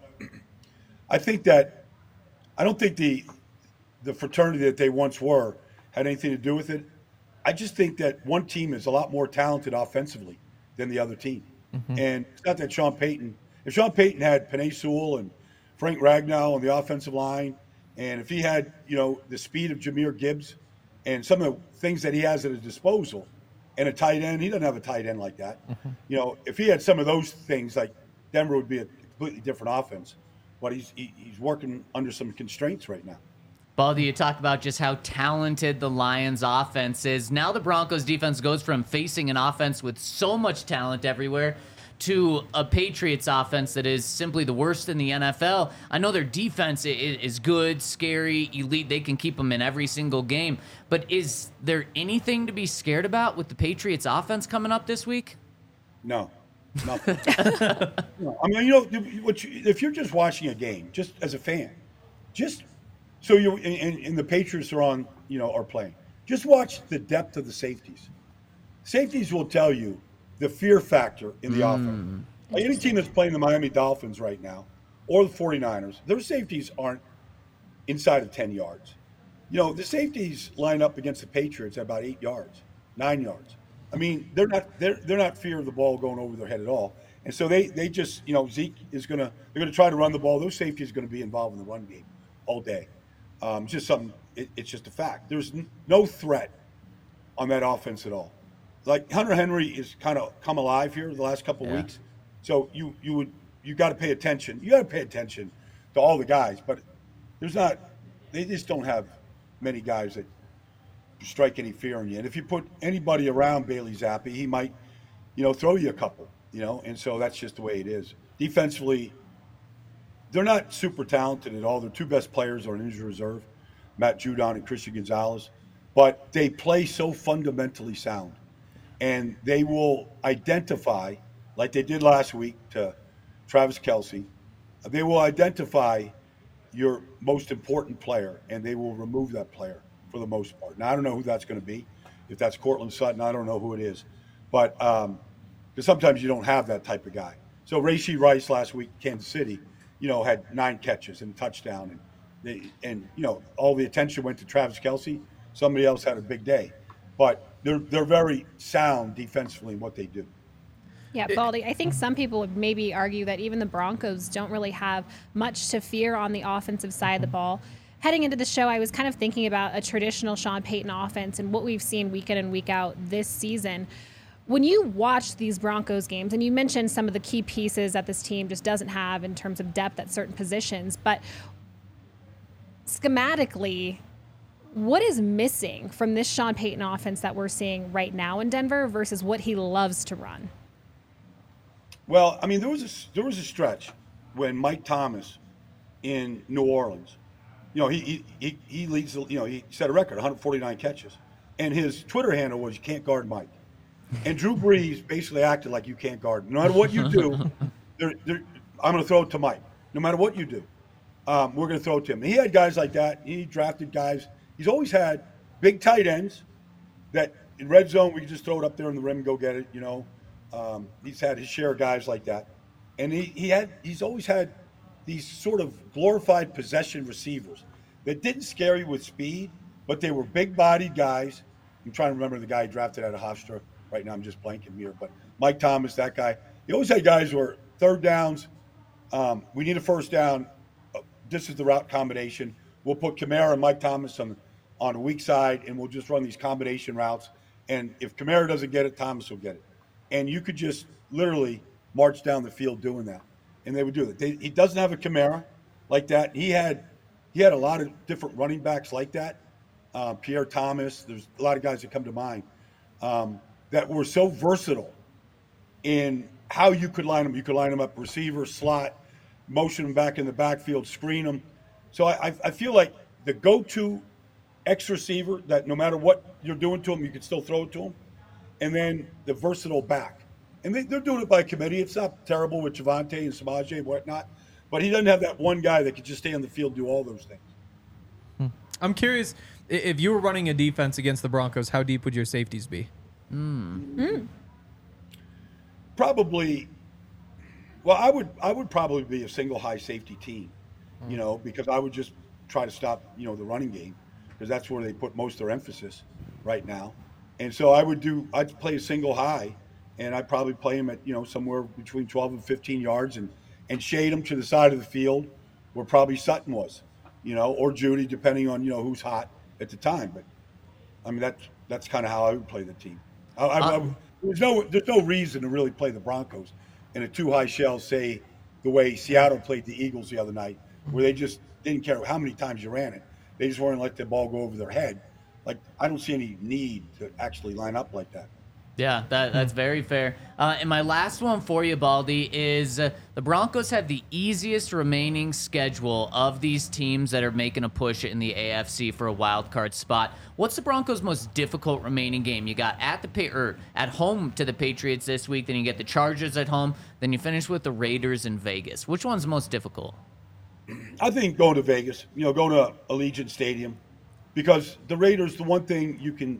I think that I don't think the the fraternity that they once were had anything to do with it. I just think that one team is a lot more talented offensively than the other team. Mm-hmm. And it's not that Sean Payton – if Sean Payton had Penei Sewell and Frank Ragnow on the offensive line, and if he had, you know, the speed of Jahmyr Gibbs and some of the things that he has at his disposal and a tight end – he doesn't have a tight end like that. Mm-hmm. You know, if he had some of those things, like Denver would be a completely different offense. But he's he, he's working under some constraints right now. Baldy, you talk about just how talented the Lions offense is. Now the Broncos defense goes from facing an offense with so much talent everywhere to a Patriots offense that is simply the worst in the N F L. I know their defense is good, scary, elite. They can keep them in every single game. But is there anything to be scared about with the Patriots offense coming up this week? No. Nothing. No. I mean, you know, what you, if you're just watching a game, just as a fan, just so you and, and the Patriots are on, you know, are playing. Just watch the depth of the safeties. Safeties will tell you the fear factor in the mm. offense. Like any team that's playing the Miami Dolphins right now or the 49ers, their safeties aren't inside of ten yards. You know, the safeties line up against the Patriots at about eight yards, nine yards. I mean, they're not they're they're not fear of the ball going over their head at all. And so they they just, you know, Zeke is gonna they're gonna try to run the ball. Those safeties are gonna be involved in the run game all day. Um, it's just something. It, it's just a fact. There's n- no threat on that offense at all. Like Hunter Henry is kind of come alive here the last couple of yeah. weeks. So you you would you got to pay attention. You got to pay attention to all the guys, but there's not. They just don't have many guys that strike any fear in you. And if you put anybody around Bailey Zappi, he might, you know, throw you a couple. You know, and so that's just the way it is. Defensively, they're not super talented at all. Their two best players are in injury reserve, Matt Judon and Christian Gonzalez, but they play so fundamentally sound. And they will identify, like they did last week to Travis Kelce, they will identify your most important player, and they will remove that player for the most part. Now, I don't know who that's going to be. If that's Cortland Sutton, I don't know who it is. But um, because sometimes you don't have that type of guy. So Rashee Rice last week, Kansas City, you know, had nine catches and a touchdown. And, they, and you know, all the attention went to Travis Kelce. Somebody else had a big day. But they're they're very sound defensively in what they do. Yeah, Baldy, I think some people would maybe argue that even the Broncos don't really have much to fear on the offensive side of the ball. Heading into the show, I was kind of thinking about a traditional Sean Payton offense and what we've seen week in and week out this season. When you watch these Broncos games, and you mentioned some of the key pieces that this team just doesn't have in terms of depth at certain positions, but schematically, what is missing from this Sean Payton offense that we're seeing right now in Denver versus what he loves to run? Well, I mean, there was a, there was a stretch when Mike Thomas in New Orleans, you know, he he he leads, you know, he set a record, one hundred forty-nine catches, and his Twitter handle was "You can't guard Mike." And Drew Brees basically acted like you can't guard him. No matter what you do, they're, they're, I'm going to throw it to Mike. No matter what you do, um, we're going to throw it to him. And he had guys like that. He drafted guys. He's always had big tight ends that in red zone we can just throw it up there in the rim and go get it. You know, um, he's had his share of guys like that, and he he had he's always had these sort of glorified possession receivers that didn't scare you with speed, but they were big-bodied guys. I'm trying to remember the guy he drafted out of Hofstra. Right now I'm just blanking here, but Mike Thomas, that guy. He always had guys who were third downs. Um, we need a first down. This is the route combination. We'll put Kamara and Mike Thomas on on the weak side, and we'll just run these combination routes. And if Kamara doesn't get it, Thomas will get it. And you could just literally march down the field doing that, and they would do that. They, he doesn't have a Kamara like that. He had he had a lot of different running backs like that. Uh, Pierre Thomas. There's a lot of guys that come to mind um, that were so versatile in how you could line them. You could line them up receiver, slot, motion them back in the backfield, screen them. So I, I feel like the go-to X receiver that no matter what you're doing to him, you can still throw it to him, and then the versatile back. And they, they're doing it by committee. It's not terrible with Javonte and Samaje and whatnot, but he doesn't have that one guy that could just stay on the field and do all those things. I'm curious, i- if you were running a defense against the Broncos, how deep would your safeties be? Probably, well, I would I would probably be a single high safety team, you know, because I would just try to stop, you know, the running game, because that's where they put most of their emphasis right now. And so I would do I'd play a single high, and I'd probably play him at, you know, somewhere between twelve and fifteen yards, and and shade him to the side of the field where probably Sutton was, you know, or Judy, depending on, you know, who's hot at the time. But I mean, that's that's kind of how I would play the team. I, I, I, there's no there's no reason to really play the Broncos in a two high shell, say the way Seattle played the Eagles the other night, where they just didn't care how many times you ran it. They just weren't let the ball go over their head. Like, I don't see any need to actually line up like that. Yeah, that, that's very fair. Uh, and my last one for you, Baldy, is uh, the Broncos have the easiest remaining schedule of these teams that are making a push in the A F C for a wild card spot. What's the Broncos' most difficult remaining game? You got at the pa- or at home to the Patriots this week, then you get the Chargers at home, then you finish with the Raiders in Vegas. Which one's the most difficult? I think going to Vegas, you know, going to Allegiant Stadium, because the Raiders, the one thing you can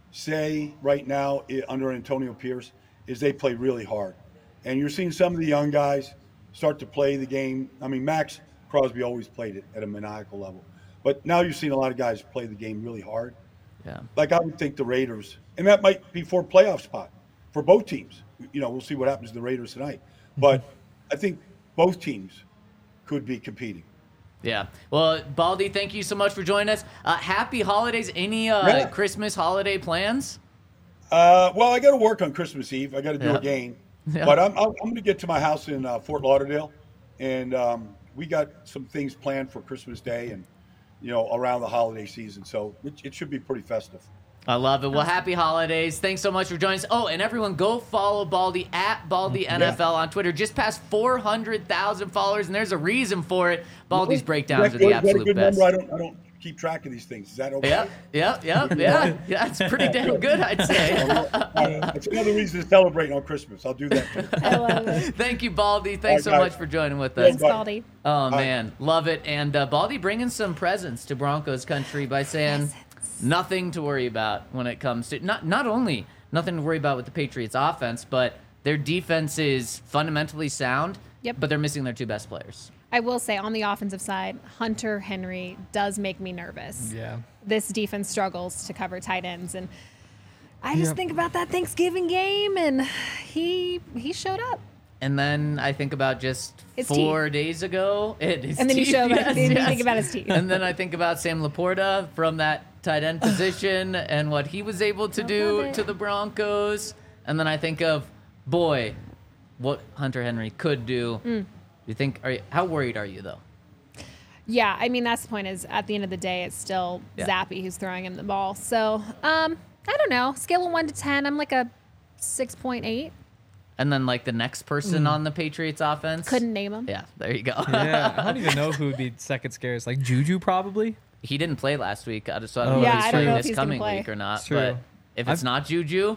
say right now i- under Antonio Pierce is they play really hard. And you're seeing some of the young guys start to play the game. I mean, Max Crosby always played it at a maniacal level. But now you're seeing a lot of guys play the game really hard. Yeah. Like, I would think the Raiders, and that might be for a playoff spot for both teams. You know, we'll see what happens to the Raiders tonight. But I think both teams could be competing. Yeah. Well, Baldy, thank you so much for joining us. Uh, happy holidays. Any uh, Yeah. Christmas holiday plans? Uh, well, I got to work on Christmas Eve. I got to do Yeah. a game, Yeah. but I'm I'm, I'm going to get to my house in uh, Fort Lauderdale, and um, we got some things planned for Christmas Day and, you know, around the holiday season. So it, it should be pretty festive. I love it. Well, happy holidays. Thanks so much for joining us. Oh, and everyone go follow Baldy at Baldy N F L on Twitter. Just past four hundred thousand followers, and there's a reason for it. Baldy's breakdowns are the Is that a absolute good best. number? I don't I don't keep track of these things. Is that okay? Yeah, yeah, yeah, yeah. Yeah, it's pretty damn good, I'd say. Uh, it's another reason to celebrate on Christmas. I'll do that too. I love it. Thank you, Baldy. Thanks so All right, guys. much for joining with Yeah, us. Thanks, bye. Baldy. Oh, man. Love it. And uh, Baldy bringing some presents to Broncos country by saying nothing to worry about when it comes to not not only nothing to worry about with the Patriots offense, but their defense is fundamentally sound, Yep. but they're missing their two best players. I will say on the offensive side, Hunter Henry does make me nervous. Yeah. This defense struggles to cover tight ends, and I just Yep. think about that Thanksgiving game, and he he showed up. And then I think about just His four days ago. It is And then you teeth. show about- Yes, then you yes. think about his teeth. And then I think about Sam Laporta from that tight end position and what he was able to I do love it. to the Broncos. And then I think of, boy, what Hunter Henry could do. Mm. You think? Are you, how worried are you though? Yeah, I mean that's the point. Is at the end of the day, it's still Yeah. Zappy who's throwing him the ball. So um, I don't know. Scale of one to ten, I'm like a six point eight. And then like the next person on the Patriots offense. Mm. Couldn't name him. Yeah, there you go. Yeah, I don't even know who would be second scariest. Like Juju, probably. He didn't play last week, I just- so I don't Oh, know if Yeah, he's I don't playing know if this he's gonna coming play. week or not. It's true. But if it's I've- not Juju,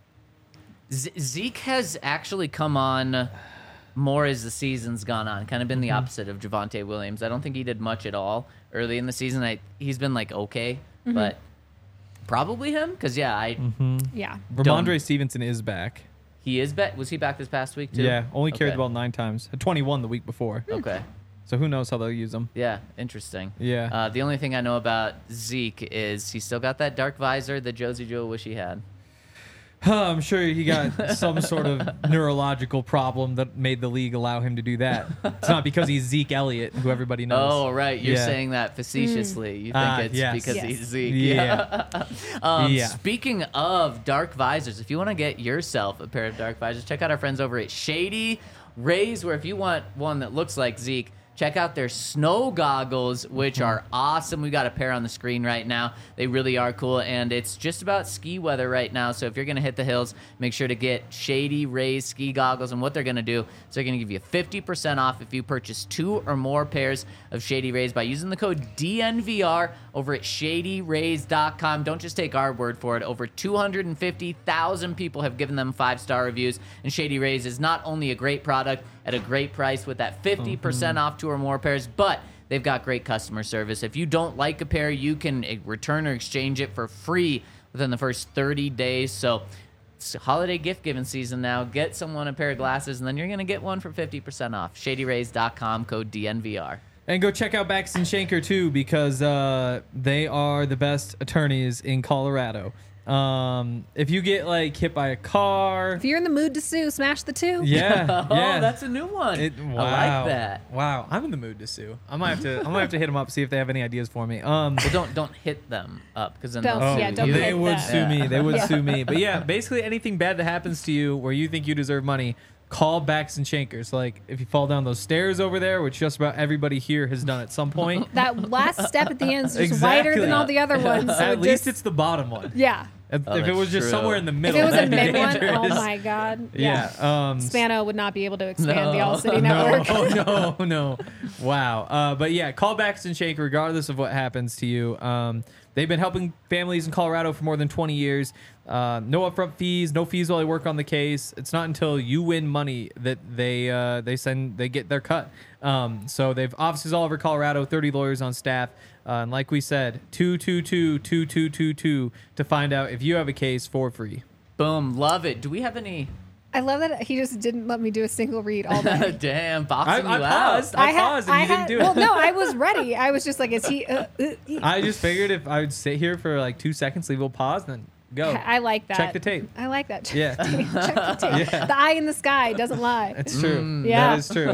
Z- Zeke has actually come on more as the season's gone on. Kind of been the opposite of Javonte Williams. I don't think he did much at all early in the season. I, he's been like okay, but probably him because yeah, I Yeah. Ramondre Stevenson is back. he is back. Was he back this past week too? Yeah, only carried Okay. the ball nine times. Had twenty-one the week before. Okay. So who knows how they'll use him? Yeah, interesting. Yeah. Uh, the only thing I know about Zeke is he's still got that dark visor that Josie Joe wish he had. I'm sure he got some sort of neurological problem that made the league allow him to do that. It's not because he's Zeke Elliott, who everybody knows. Oh, right. You're Yeah. saying that facetiously. You think Ah, it's yes. because Yes. he's Zeke. Yeah. um, Yeah. Speaking of dark visors, if you want to get yourself a pair of dark visors, check out our friends over at Shady Rays, where if you want one that looks like Zeke, check out their snow goggles, which are awesome. We got a pair on the screen right now. They really are cool, and it's just about ski weather right now. So if you're going to hit the hills, make sure to get Shady Rays ski goggles. And what they're going to do is they're going to give you fifty percent off if you purchase two or more pairs of Shady Rays by using the code D N V R over at shady rays dot com. Don't just take our word for it. Over two hundred fifty thousand people have given them five-star reviews, and Shady Rays is not only a great product at a great price with that fifty percent mm-hmm. off two or more pairs, but they've got great customer service. If you don't like a pair, you can return or exchange it for free within the first thirty days. So it's holiday gift giving season now. Get someone a pair of glasses, and then you're going to get one for fifty percent off. shady rays dot com, code D N V R. And go check out Bachus and Schanker too, because uh, they are the best attorneys in Colorado. Um, if you get like hit by a car, if you're in the mood to sue, smash the two. Yeah, oh, yeah, that's a new one. It, wow. I like that. Wow, I'm in the mood to sue. I might have to. I might have to hit them up, see if they have any ideas for me. Um, well, don't don't hit them up because then Don't- they'll oh, yeah, sue don't you. they hit would them. sue Yeah. me. They would Yeah. sue me. But yeah, basically anything bad that happens to you where you think you deserve money, call Bachus and Schanker. So like if you fall down those stairs over there, which just about everybody here has done at some point. That last step at the end is just Exactly. wider than all the other ones. So At it least just- it's the bottom one. yeah. If, Oh, if it that's was just true. somewhere in the If middle, it was a that'd be mid one, dangerous. oh my god. Yeah. Um, Spano would not be able to expand No. the All City Network. No, no, no. Wow. Uh, but yeah, call Bachus and Schanker regardless of what happens to you. Um, they've been helping families in Colorado for more than twenty years. Uh, no upfront fees, no fees while they work on the case. It's not until you win money that they uh, they send they get their cut. Um, so they've offices all over Colorado, thirty lawyers on staff. Uh, and like we said, two two two two two two two to find out if you have a case for free. Boom, love it. Do we have any? I love that he just didn't let me do a single read all day. Damn, I, boxing I you paused. out. I, had- paused, and I you had- didn't do well, it. no, I was ready. I was just like, is he? Uh, uh, uh. I just figured if I would sit here for like two seconds, leave a little pause, then go. I like that. Check the tape. I like that. Check Yeah. the tape. Check the tape. Yeah. The eye in the sky doesn't lie. It's true. Yeah. That is true.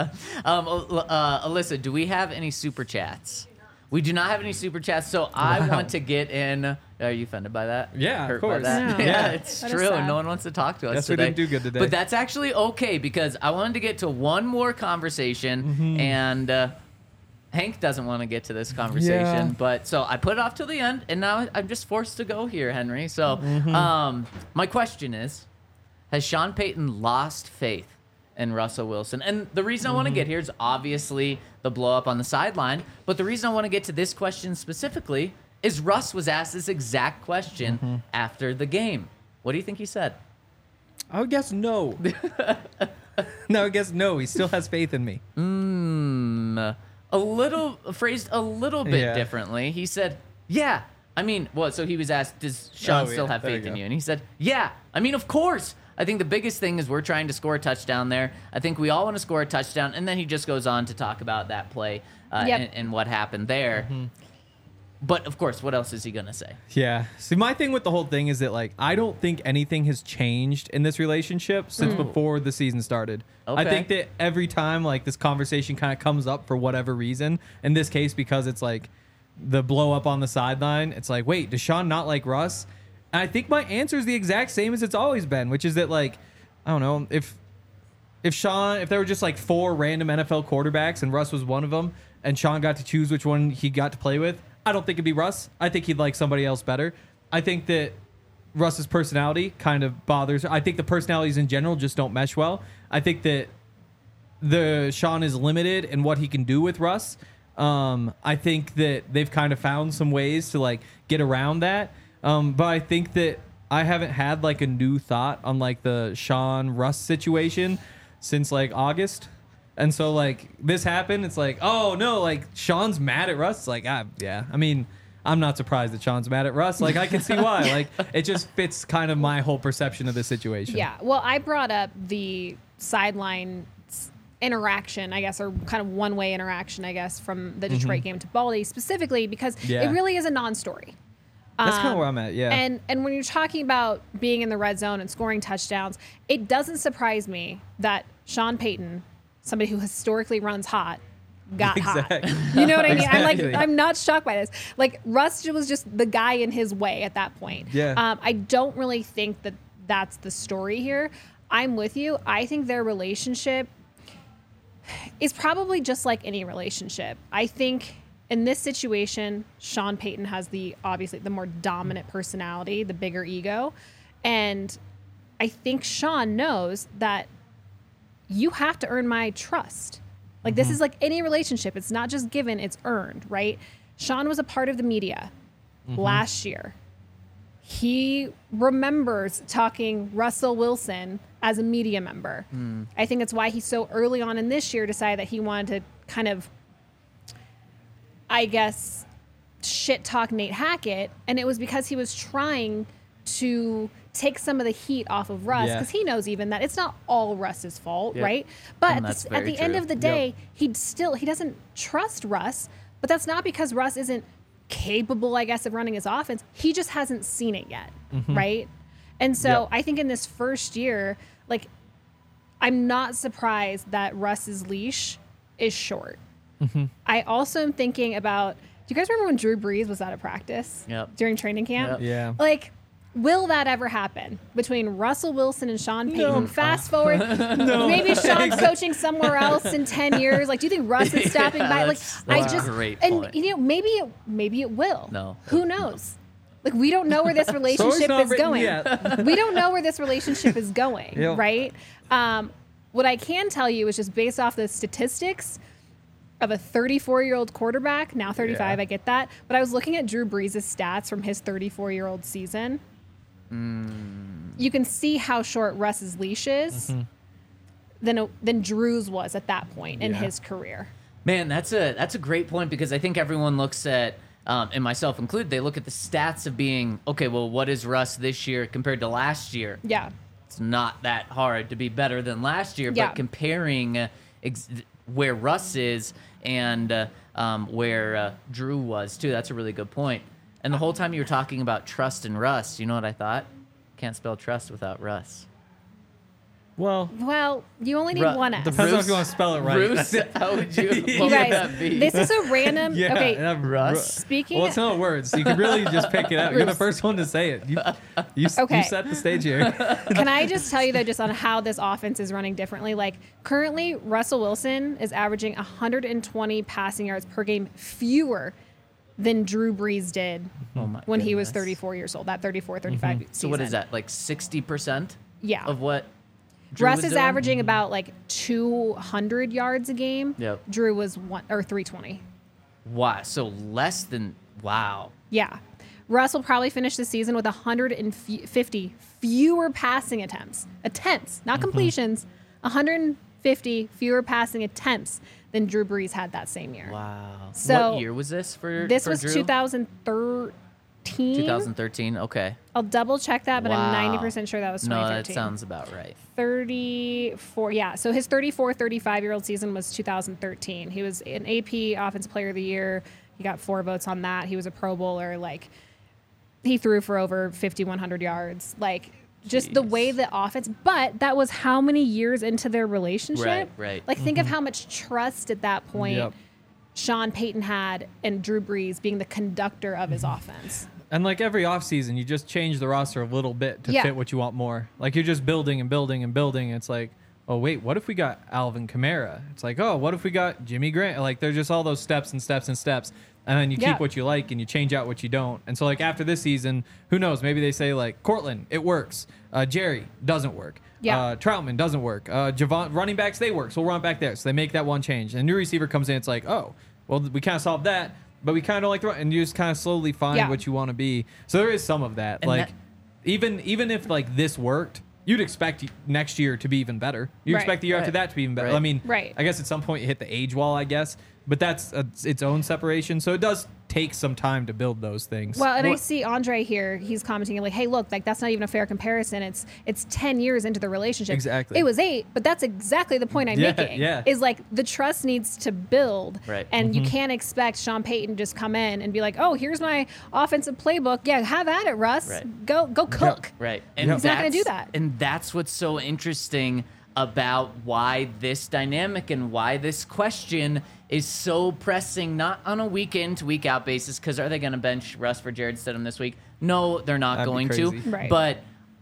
Um, uh, Alyssa, do we have any super chats? We do not have any super chats, so I Wow. want to get in. Are you offended by that? Yeah, of Hurt by course. that? No. Yeah, Yeah. it's That is true. sad. No one wants to talk to us Guess we today. didn't do good today. But that's actually okay because I wanted to get to one more conversation, Mm-hmm. and uh, Hank doesn't want to get to this conversation. Yeah. But so I put it off till the end, and now I'm just forced to go here, Henry. So Mm-hmm. um, my question is, has Sean Payton lost faith in Russell Wilson? And the reason I want to get here is obviously the blow up on the sideline. But the reason I want to get to this question specifically is Russ was asked this exact question after the game. What do you think he said? I would guess no. no, I guess no. He still has faith in me. Mm, a little phrased a little bit Yeah. differently. He said, "Yeah." I mean, well, so he was asked, "Does Sean Oh, still yeah. have There faith you in go. you?" And he said, "Yeah." I mean, of course. I think the biggest thing is we're trying to score a touchdown there. I think we all want to score a touchdown, and then he just goes on to talk about that play uh, Yep. and, and what happened there. Mm-hmm. But of course, what else is he gonna say? Yeah. See, my thing with the whole thing is that like I don't think anything has changed in this relationship since before the season started. I Okay. think that every time like this conversation kind of comes up for whatever reason, in this case because it's like the blow up on the sideline, it's like, wait, does Sean not like Russ? And I think my answer is the exact same as it's always been, which is that like, I don't know, if if Sean, if there were just like four random N F L quarterbacks and Russ was one of them, and Sean got to choose which one he got to play with, I don't think it'd be Russ. I think he'd like somebody else better. I think that Russ's personality kind of bothers. I think the personalities in general just don't mesh well. I think that the Sean is limited in what he can do with Russ. Um, I think that they've kind of found some ways to like get around that. Um, but I think that I haven't had like a new thought on like the Sean Russ situation since like August. And so like this happened, it's like, oh no, like Sean's mad at Russ. It's like, ah, yeah. I mean, I'm not surprised that Sean's mad at Russ. Like I can see why. Like it just fits kind of my whole perception of the situation. Yeah. Well, I brought up the sideline s- interaction, I guess, or kind of one-way interaction, I guess, from the Detroit game to Baldy specifically because Yeah. it really is a non-story. That's kind of Um, where I'm at. Yeah. And and when you're talking about being in the red zone and scoring touchdowns, it doesn't surprise me that Sean Payton, somebody who historically runs hot, got Exactly. hot. You know what I mean? I'm like, Exactly. I'm not shocked by this. Like Russ was just the guy in his way at that point. Yeah. Um, I don't really think that that's the story here. I'm with you. I think their relationship is probably just like any relationship. I think in this situation, Sean Payton has the obviously the more dominant personality, the bigger ego. And I think Sean knows that you have to earn my trust. Like, this is like any relationship. It's not just given, it's earned, right? Sean was a part of the media last year. He remembers talking Russell Wilson as a media member. Mm. I think that's why he so early on in this year decided that he wanted to kind of, I guess, shit talk Nate Hackett. And it was because he was trying to take some of the heat off of Russ, because yeah. he knows even that it's not all Russ's fault, yep. right? But at the, at the end of the day, yep. he still, he doesn't trust Russ, but that's not because Russ isn't capable, I guess, of running his offense. He just hasn't seen it yet, mm-hmm. right? And so yep. I think in this first year, like, I'm not surprised that Russ's leash is short. Mm-hmm. I also am thinking about, do you guys remember when Drew Brees was out of practice yep. during training camp? Yep. Yeah. Like, will that ever happen between Russell Wilson and Sean Payton? No. Fast forward, no. maybe Sean's coaching somewhere else in ten years. Like, do you think Russ is stopping yeah, by? Like, that's, I that's just a great and point. you know maybe it maybe it will. No. Who knows? Like, we don't know where this relationship is going. We don't know where this relationship is going, yep. right? Um, what I can tell you is just based off the statistics of a thirty-four-year-old quarterback, now thirty-five, yeah. I get that. But I was looking at Drew Brees' stats from his thirty-four-year-old season. Mm. You can see how short Russ's leash is mm-hmm. than, than Drew's was at that point in yeah. his career. Man, that's a that's a great point, because I think everyone looks at, um, and myself included, they look at the stats of being, okay, well, what is Russ this year compared to last year? Yeah. It's not that hard to be better than last year, yeah. but comparing uh, ex- where Russ is and uh, um, where uh, Drew was, too, that's a really good point. And the whole time you were talking about trust and Russ, you know what I thought? Can't spell trust without Russ. Well, well, you only need Ru- one S. Depends on if you want to spell it right. Bruce, how would you? What You would guys, that be? this is a random. yeah, okay, uh, Russ. speaking. Well, it's not words, so you can really just pick it out. You're the first one to say it. You, you, Okay. you set the stage here. Can I just tell you, though, just on how this offense is running differently? Like, currently, Russell Wilson is averaging one hundred twenty passing yards per game fewer than Drew Brees did oh my when he was goodness. thirty-four years old, that thirty-four, thirty-five Mm-hmm. season. So what is that, like sixty percent Yeah. of what Drew Russ was is doing? averaging about like two hundred yards a game. Yep. Drew was one or three twenty. Wow, so less than, wow. Yeah. Russ will probably finish the season with one hundred fifty fewer passing attempts. Attempts, not completions. one hundred fifty fewer passing attempts than Drew Brees had that same year. Wow. So what year was this for This for was Drew? two thousand thirteen. twenty thirteen, okay. I'll double check that, but I'm Wow. ninety percent sure that was twenty No, thirteen. that sounds about right. thirty-four, yeah. So his thirty-four, thirty-five-year-old season was two thousand thirteen. He was an A P Offensive Player of the Year. He got four votes on that. He was a Pro Bowler. Like, he threw for over fifty-one hundred yards. Like, just the Jeez. way the offense, but that was how many years into their relationship? Right, right. Like, think of how much trust at that point Yep. Sean Payton had and Drew Brees being the conductor of his offense. And like every offseason, you just change the roster a little bit to Yeah. fit what you want more. Like you're just building and building and building. It's like, oh, wait, what if we got Alvin Kamara? It's like, oh, what if we got Jimmy Grant? Like there's just all those steps and steps and steps. And then you Yeah. keep what you like and you change out what you don't. And so like after this season, who knows? Maybe they say like Cortland, it works. Uh, Jerry doesn't work. Yeah. Uh, Troutman doesn't work. Uh, Javon, running backs, they work. So we'll run it back there. So they make that one change. And a new receiver comes in. It's like, oh, well, we kind of solved that. But we kind of don't like the run. And you just kind of slowly find Yeah. what you want to be. So there is some of that. And like that- even even if like this worked, you'd expect next year to be even better. You Right. expect the year after Right. that to be even better. Right. I mean, Right. I guess at some point you hit the age wall, I guess. But that's a, its own separation. So it does take some time to build those things. Well, and I Well- see Andre here. He's commenting like, "Hey, look, like that's not even a fair comparison. It's it's ten years into the relationship. Exactly. It was eight, but that's exactly the point I'm Yeah, making. yeah. Is like the trust needs to build, Right. and Mm-hmm. you can't expect Sean Payton to just come in and be like, "Oh, here's my offensive playbook. Yeah, have at it, Russ. Right. Go go cook." Right. And He's not gonna do that's- that. And that's what's so interesting about why this dynamic and why this question is so pressing, not on a week in to week out basis, because are they going to bench Russ for Jared Stidham this week? No, they're not That'd be going to. crazy. Right. But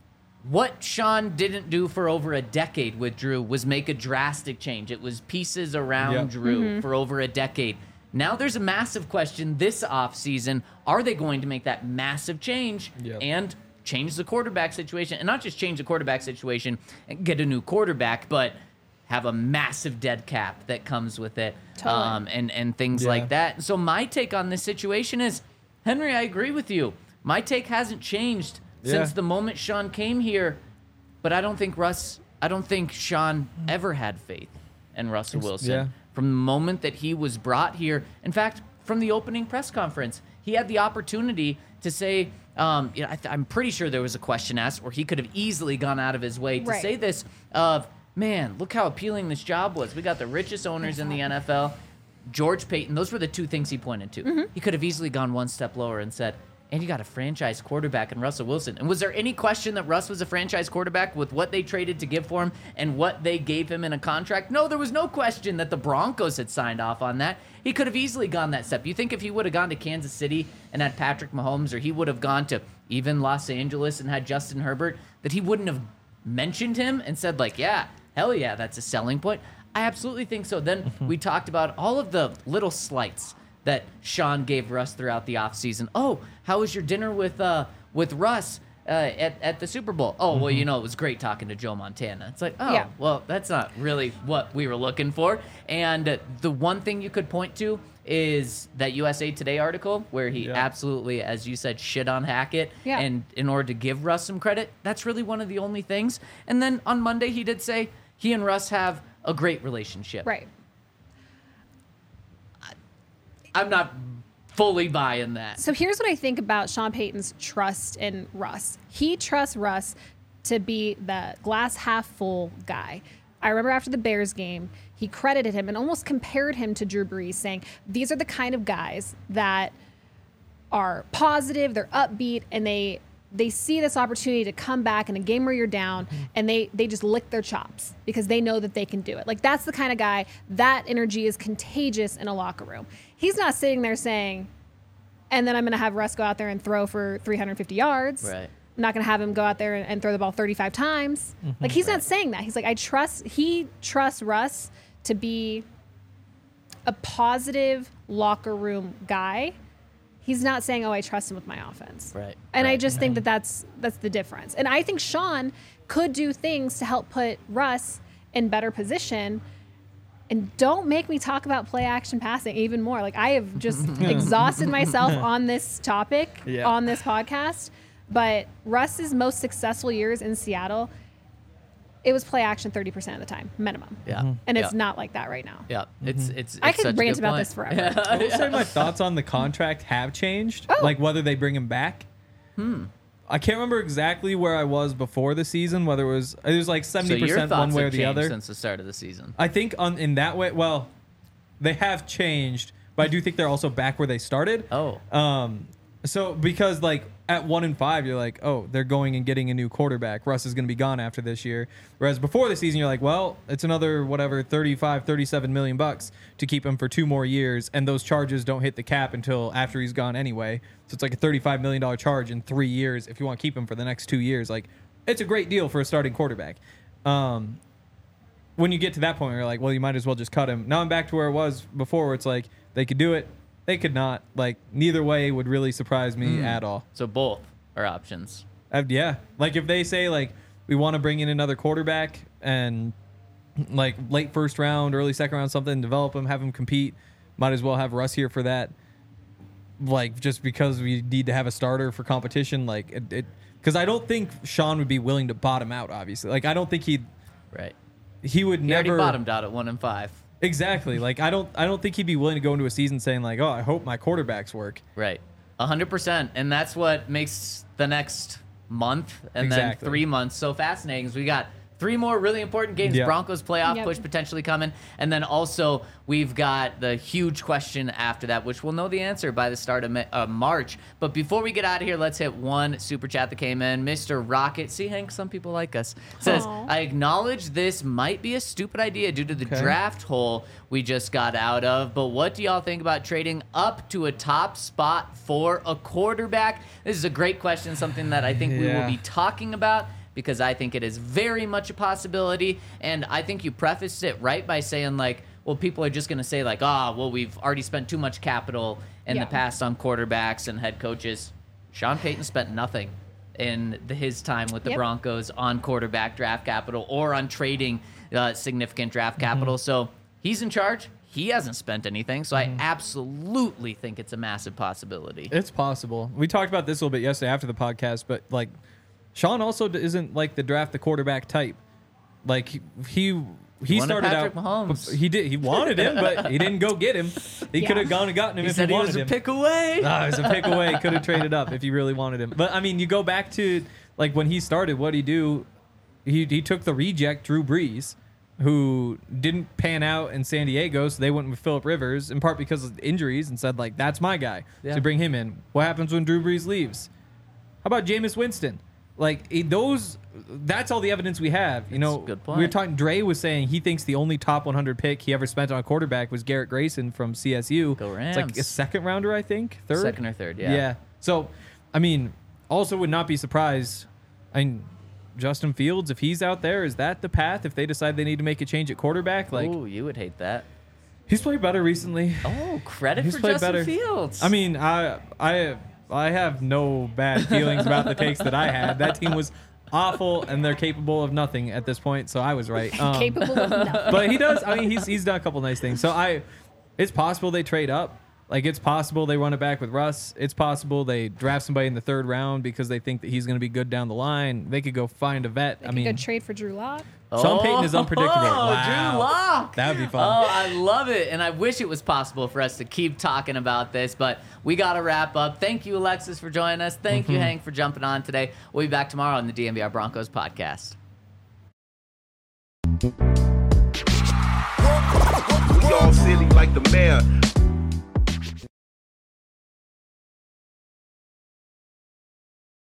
what Sean didn't do for over a decade with Drew was make a drastic change. It was pieces around Yep. Drew Mm-hmm. for over a decade. Now there's a massive question this offseason. Are they going to make that massive change Yep. and change the quarterback situation? And not just change the quarterback situation and get a new quarterback, but have a massive dead cap that comes with it, Totally. um, and, and things Yeah. like that. So my take on this situation is, Henry, I agree with you. My take hasn't changed since Yeah. the moment Sean came here, but I don't think Russ, I don't think Sean ever had faith in Russell Wilson. yeah. From the moment that he was brought here, in fact, from the opening press conference, he had the opportunity to say, um, you know, I th- I'm pretty sure there was a question asked where he could have easily gone out of his way to Right. say this of, man, look how appealing this job was. We got the richest owners in the N F L. George Payton, those were the two things he pointed to. Mm-hmm. He could have easily gone one step lower and said, and you got a franchise quarterback in Russell Wilson. And was there any question that Russ was a franchise quarterback with what they traded to give for him and what they gave him in a contract? No, there was no question that the Broncos had signed off on that. He could have easily gone that step. You think if he would have gone to Kansas City and had Patrick Mahomes, or he would have gone to even Los Angeles and had Justin Herbert, that he wouldn't have mentioned him and said, like, yeah, hell yeah, that's a selling point? I absolutely think so. Then we talked about all of the little slights that Sean gave Russ throughout the offseason. Oh, how was your dinner with uh, with Russ uh, at, at the Super Bowl? Oh, well, you know, it was great talking to Joe Montana. It's like, oh, Yeah. well, that's not really what we were looking for. And uh, the one thing you could point to is that U S A Today article where he Yeah. absolutely, as you said, shit on Hackett. Yeah. And in order to give Russ some credit, that's really one of the only things. And then on Monday, he did say he and Russ have a great relationship. Right. I'm not fully buying that. So here's what I think about Sean Payton's trust in Russ. He trusts Russ to be the glass half full guy. I remember after the Bears game, he credited him and almost compared him to Drew Brees, saying, these are the kind of guys that are positive, they're upbeat, and they they see this opportunity to come back in a game where you're down, and they they just lick their chops because they know that they can do it. Like, that's the kind of guy, that energy is contagious in a locker room. He's not sitting there saying, and then I'm going to have Russ go out there and throw for three hundred fifty yards. Right. I'm not going to have him go out there and, and throw the ball thirty-five times. Like, he's not saying that. He's like, I trust, he trusts Russ to be a positive locker room guy. He's not saying, oh, I trust him with my offense. Right, And I right. just think that that's, that's the difference. And I think Sean could do things to help put Russ in better position. And don't make me talk about play action passing even more. Like, I have just exhausted myself on this topic Yeah. on this podcast. But Russ's most successful years in Seattle, it was play action thirty percent of the time, minimum. Yeah. And it's yeah. not like that right now. Yeah. It's, it's, I it's could such a rant good about point. this forever. I will say my thoughts on the contract have changed. Oh. Like whether they bring him back. Hmm. I can't remember exactly where I was before the season. Whether it was it was like So seventy your percent thoughts one way or have the changed other. since the start of the season. I think on in that way. Well, they have changed, but I do think they're also back where they started. Oh. Um. So because like at one and five, you're like, oh, they're going and getting a new quarterback. Russ is going to be gone after this year. Whereas before the season, you're like, well, it's another whatever thirty-five, thirty-seven million bucks to keep him for two more years, and those charges don't hit the cap until after he's gone anyway. So it's like a thirty-five million dollars charge in three years if you want to keep him for the next two years. Like, it's a great deal for a starting quarterback. Um, when you get to that point, you're like, well, you might as well just cut him. Now I'm back to where it was before, where it's like they could do it. They could not. Like, neither way would really surprise me at all. So both are options. Uh, yeah. Like, if they say, like, we want to bring in another quarterback and, like, late first round, early second round, something, develop him, have him compete, might as well have Russ here for that. Like, just because we need to have a starter for competition. Like, it, it, because I don't think Sean would be willing to bottom out, obviously. Like, I don't think he'd, Right. he would He never. already bottomed out at one and five. Exactly. Like, I don't, I don't think he'd be willing to go into a season saying, like, oh, I hope my quarterbacks work. Right. A hundred percent. And that's what makes the next month and Exactly. then three months so fascinating. Is we got three more really important games. Yep. Broncos playoff Yep. push potentially coming. And then also we've got the huge question after that, which we'll know the answer by the start of Ma- uh, March. But before we get out of here, let's hit one super chat that came in. Mister Rocket, see, Hank, some people like us, says, Aw. I acknowledge this might be a stupid idea due to the Okay. draft hole we just got out of, but what do y'all think about trading up to a top spot for a quarterback? This is a great question, something that I think we will Yeah. be talking about because I think it is very much a possibility. And I think you prefaced it right by saying, like, well, people are just going to say, like, ah, oh, well, we've already spent too much capital in Yeah. the past on quarterbacks and head coaches. Sean Payton spent nothing in the, his time with the Yep. Broncos on quarterback draft capital or on trading uh, significant draft capital. Mm-hmm. So he's in charge. He hasn't spent anything. So Mm-hmm. I absolutely think it's a massive possibility. It's possible. We talked about this a little bit yesterday after the podcast, but like Sean also d- isn't like the draft the quarterback type. Like he he, he wanted started Patrick out. Mahomes. He did. He wanted him, but he didn't go get him. He Yeah. could have gone and gotten him He if said he he wanted was a him. pick away. Ah, it was a pick away. Could have traded up if he really wanted him. But I mean, you go back to like when he started. What did he do? He he took the reject Drew Brees, who didn't pan out in San Diego, so they went with Phillip Rivers in part because of injuries, and said like, that's my guy. Yeah. So bring him in. What happens when Drew Brees leaves? How about Jameis Winston? Like eh, those. That's all the evidence we have. You know, a good we were point. talking. Dre was saying he thinks the only top one hundred pick he ever spent on a quarterback was Garrett Grayson from C S U. Go It's like a Rams. second rounder, I think. Third, Second or third, yeah. Yeah. So, I mean, also would not be surprised. I mean, Justin Fields, if he's out there, is that the path? If they decide they need to make a change at quarterback, like Ooh, you would hate that. he's played better recently. Oh, credit He's for played Justin better. Fields. I mean, I I I have no bad feelings about the takes that I had. That team was awful, and they're capable of nothing at this point. So I was right. Um, Capable of nothing. but he does. I mean, he's he's done a couple nice things. So I, it's possible they trade up. Like it's possible they run it back with Russ. It's possible they draft somebody in the third round because they think that he's going to be good down the line. They could go find a vet. They I could mean, go trade for Drew Lock. Sean Payton is unpredictable. Oh, Wow. Drew Lock. That would be fun. Oh, I love it. And I wish it was possible for us to keep talking about this, but we got to wrap up. Thank you, Alexis, for joining us. Thank Mm-hmm. you, Hank, for jumping on today. We'll be back tomorrow on the D M V R Broncos podcast. We all silly like the mayor.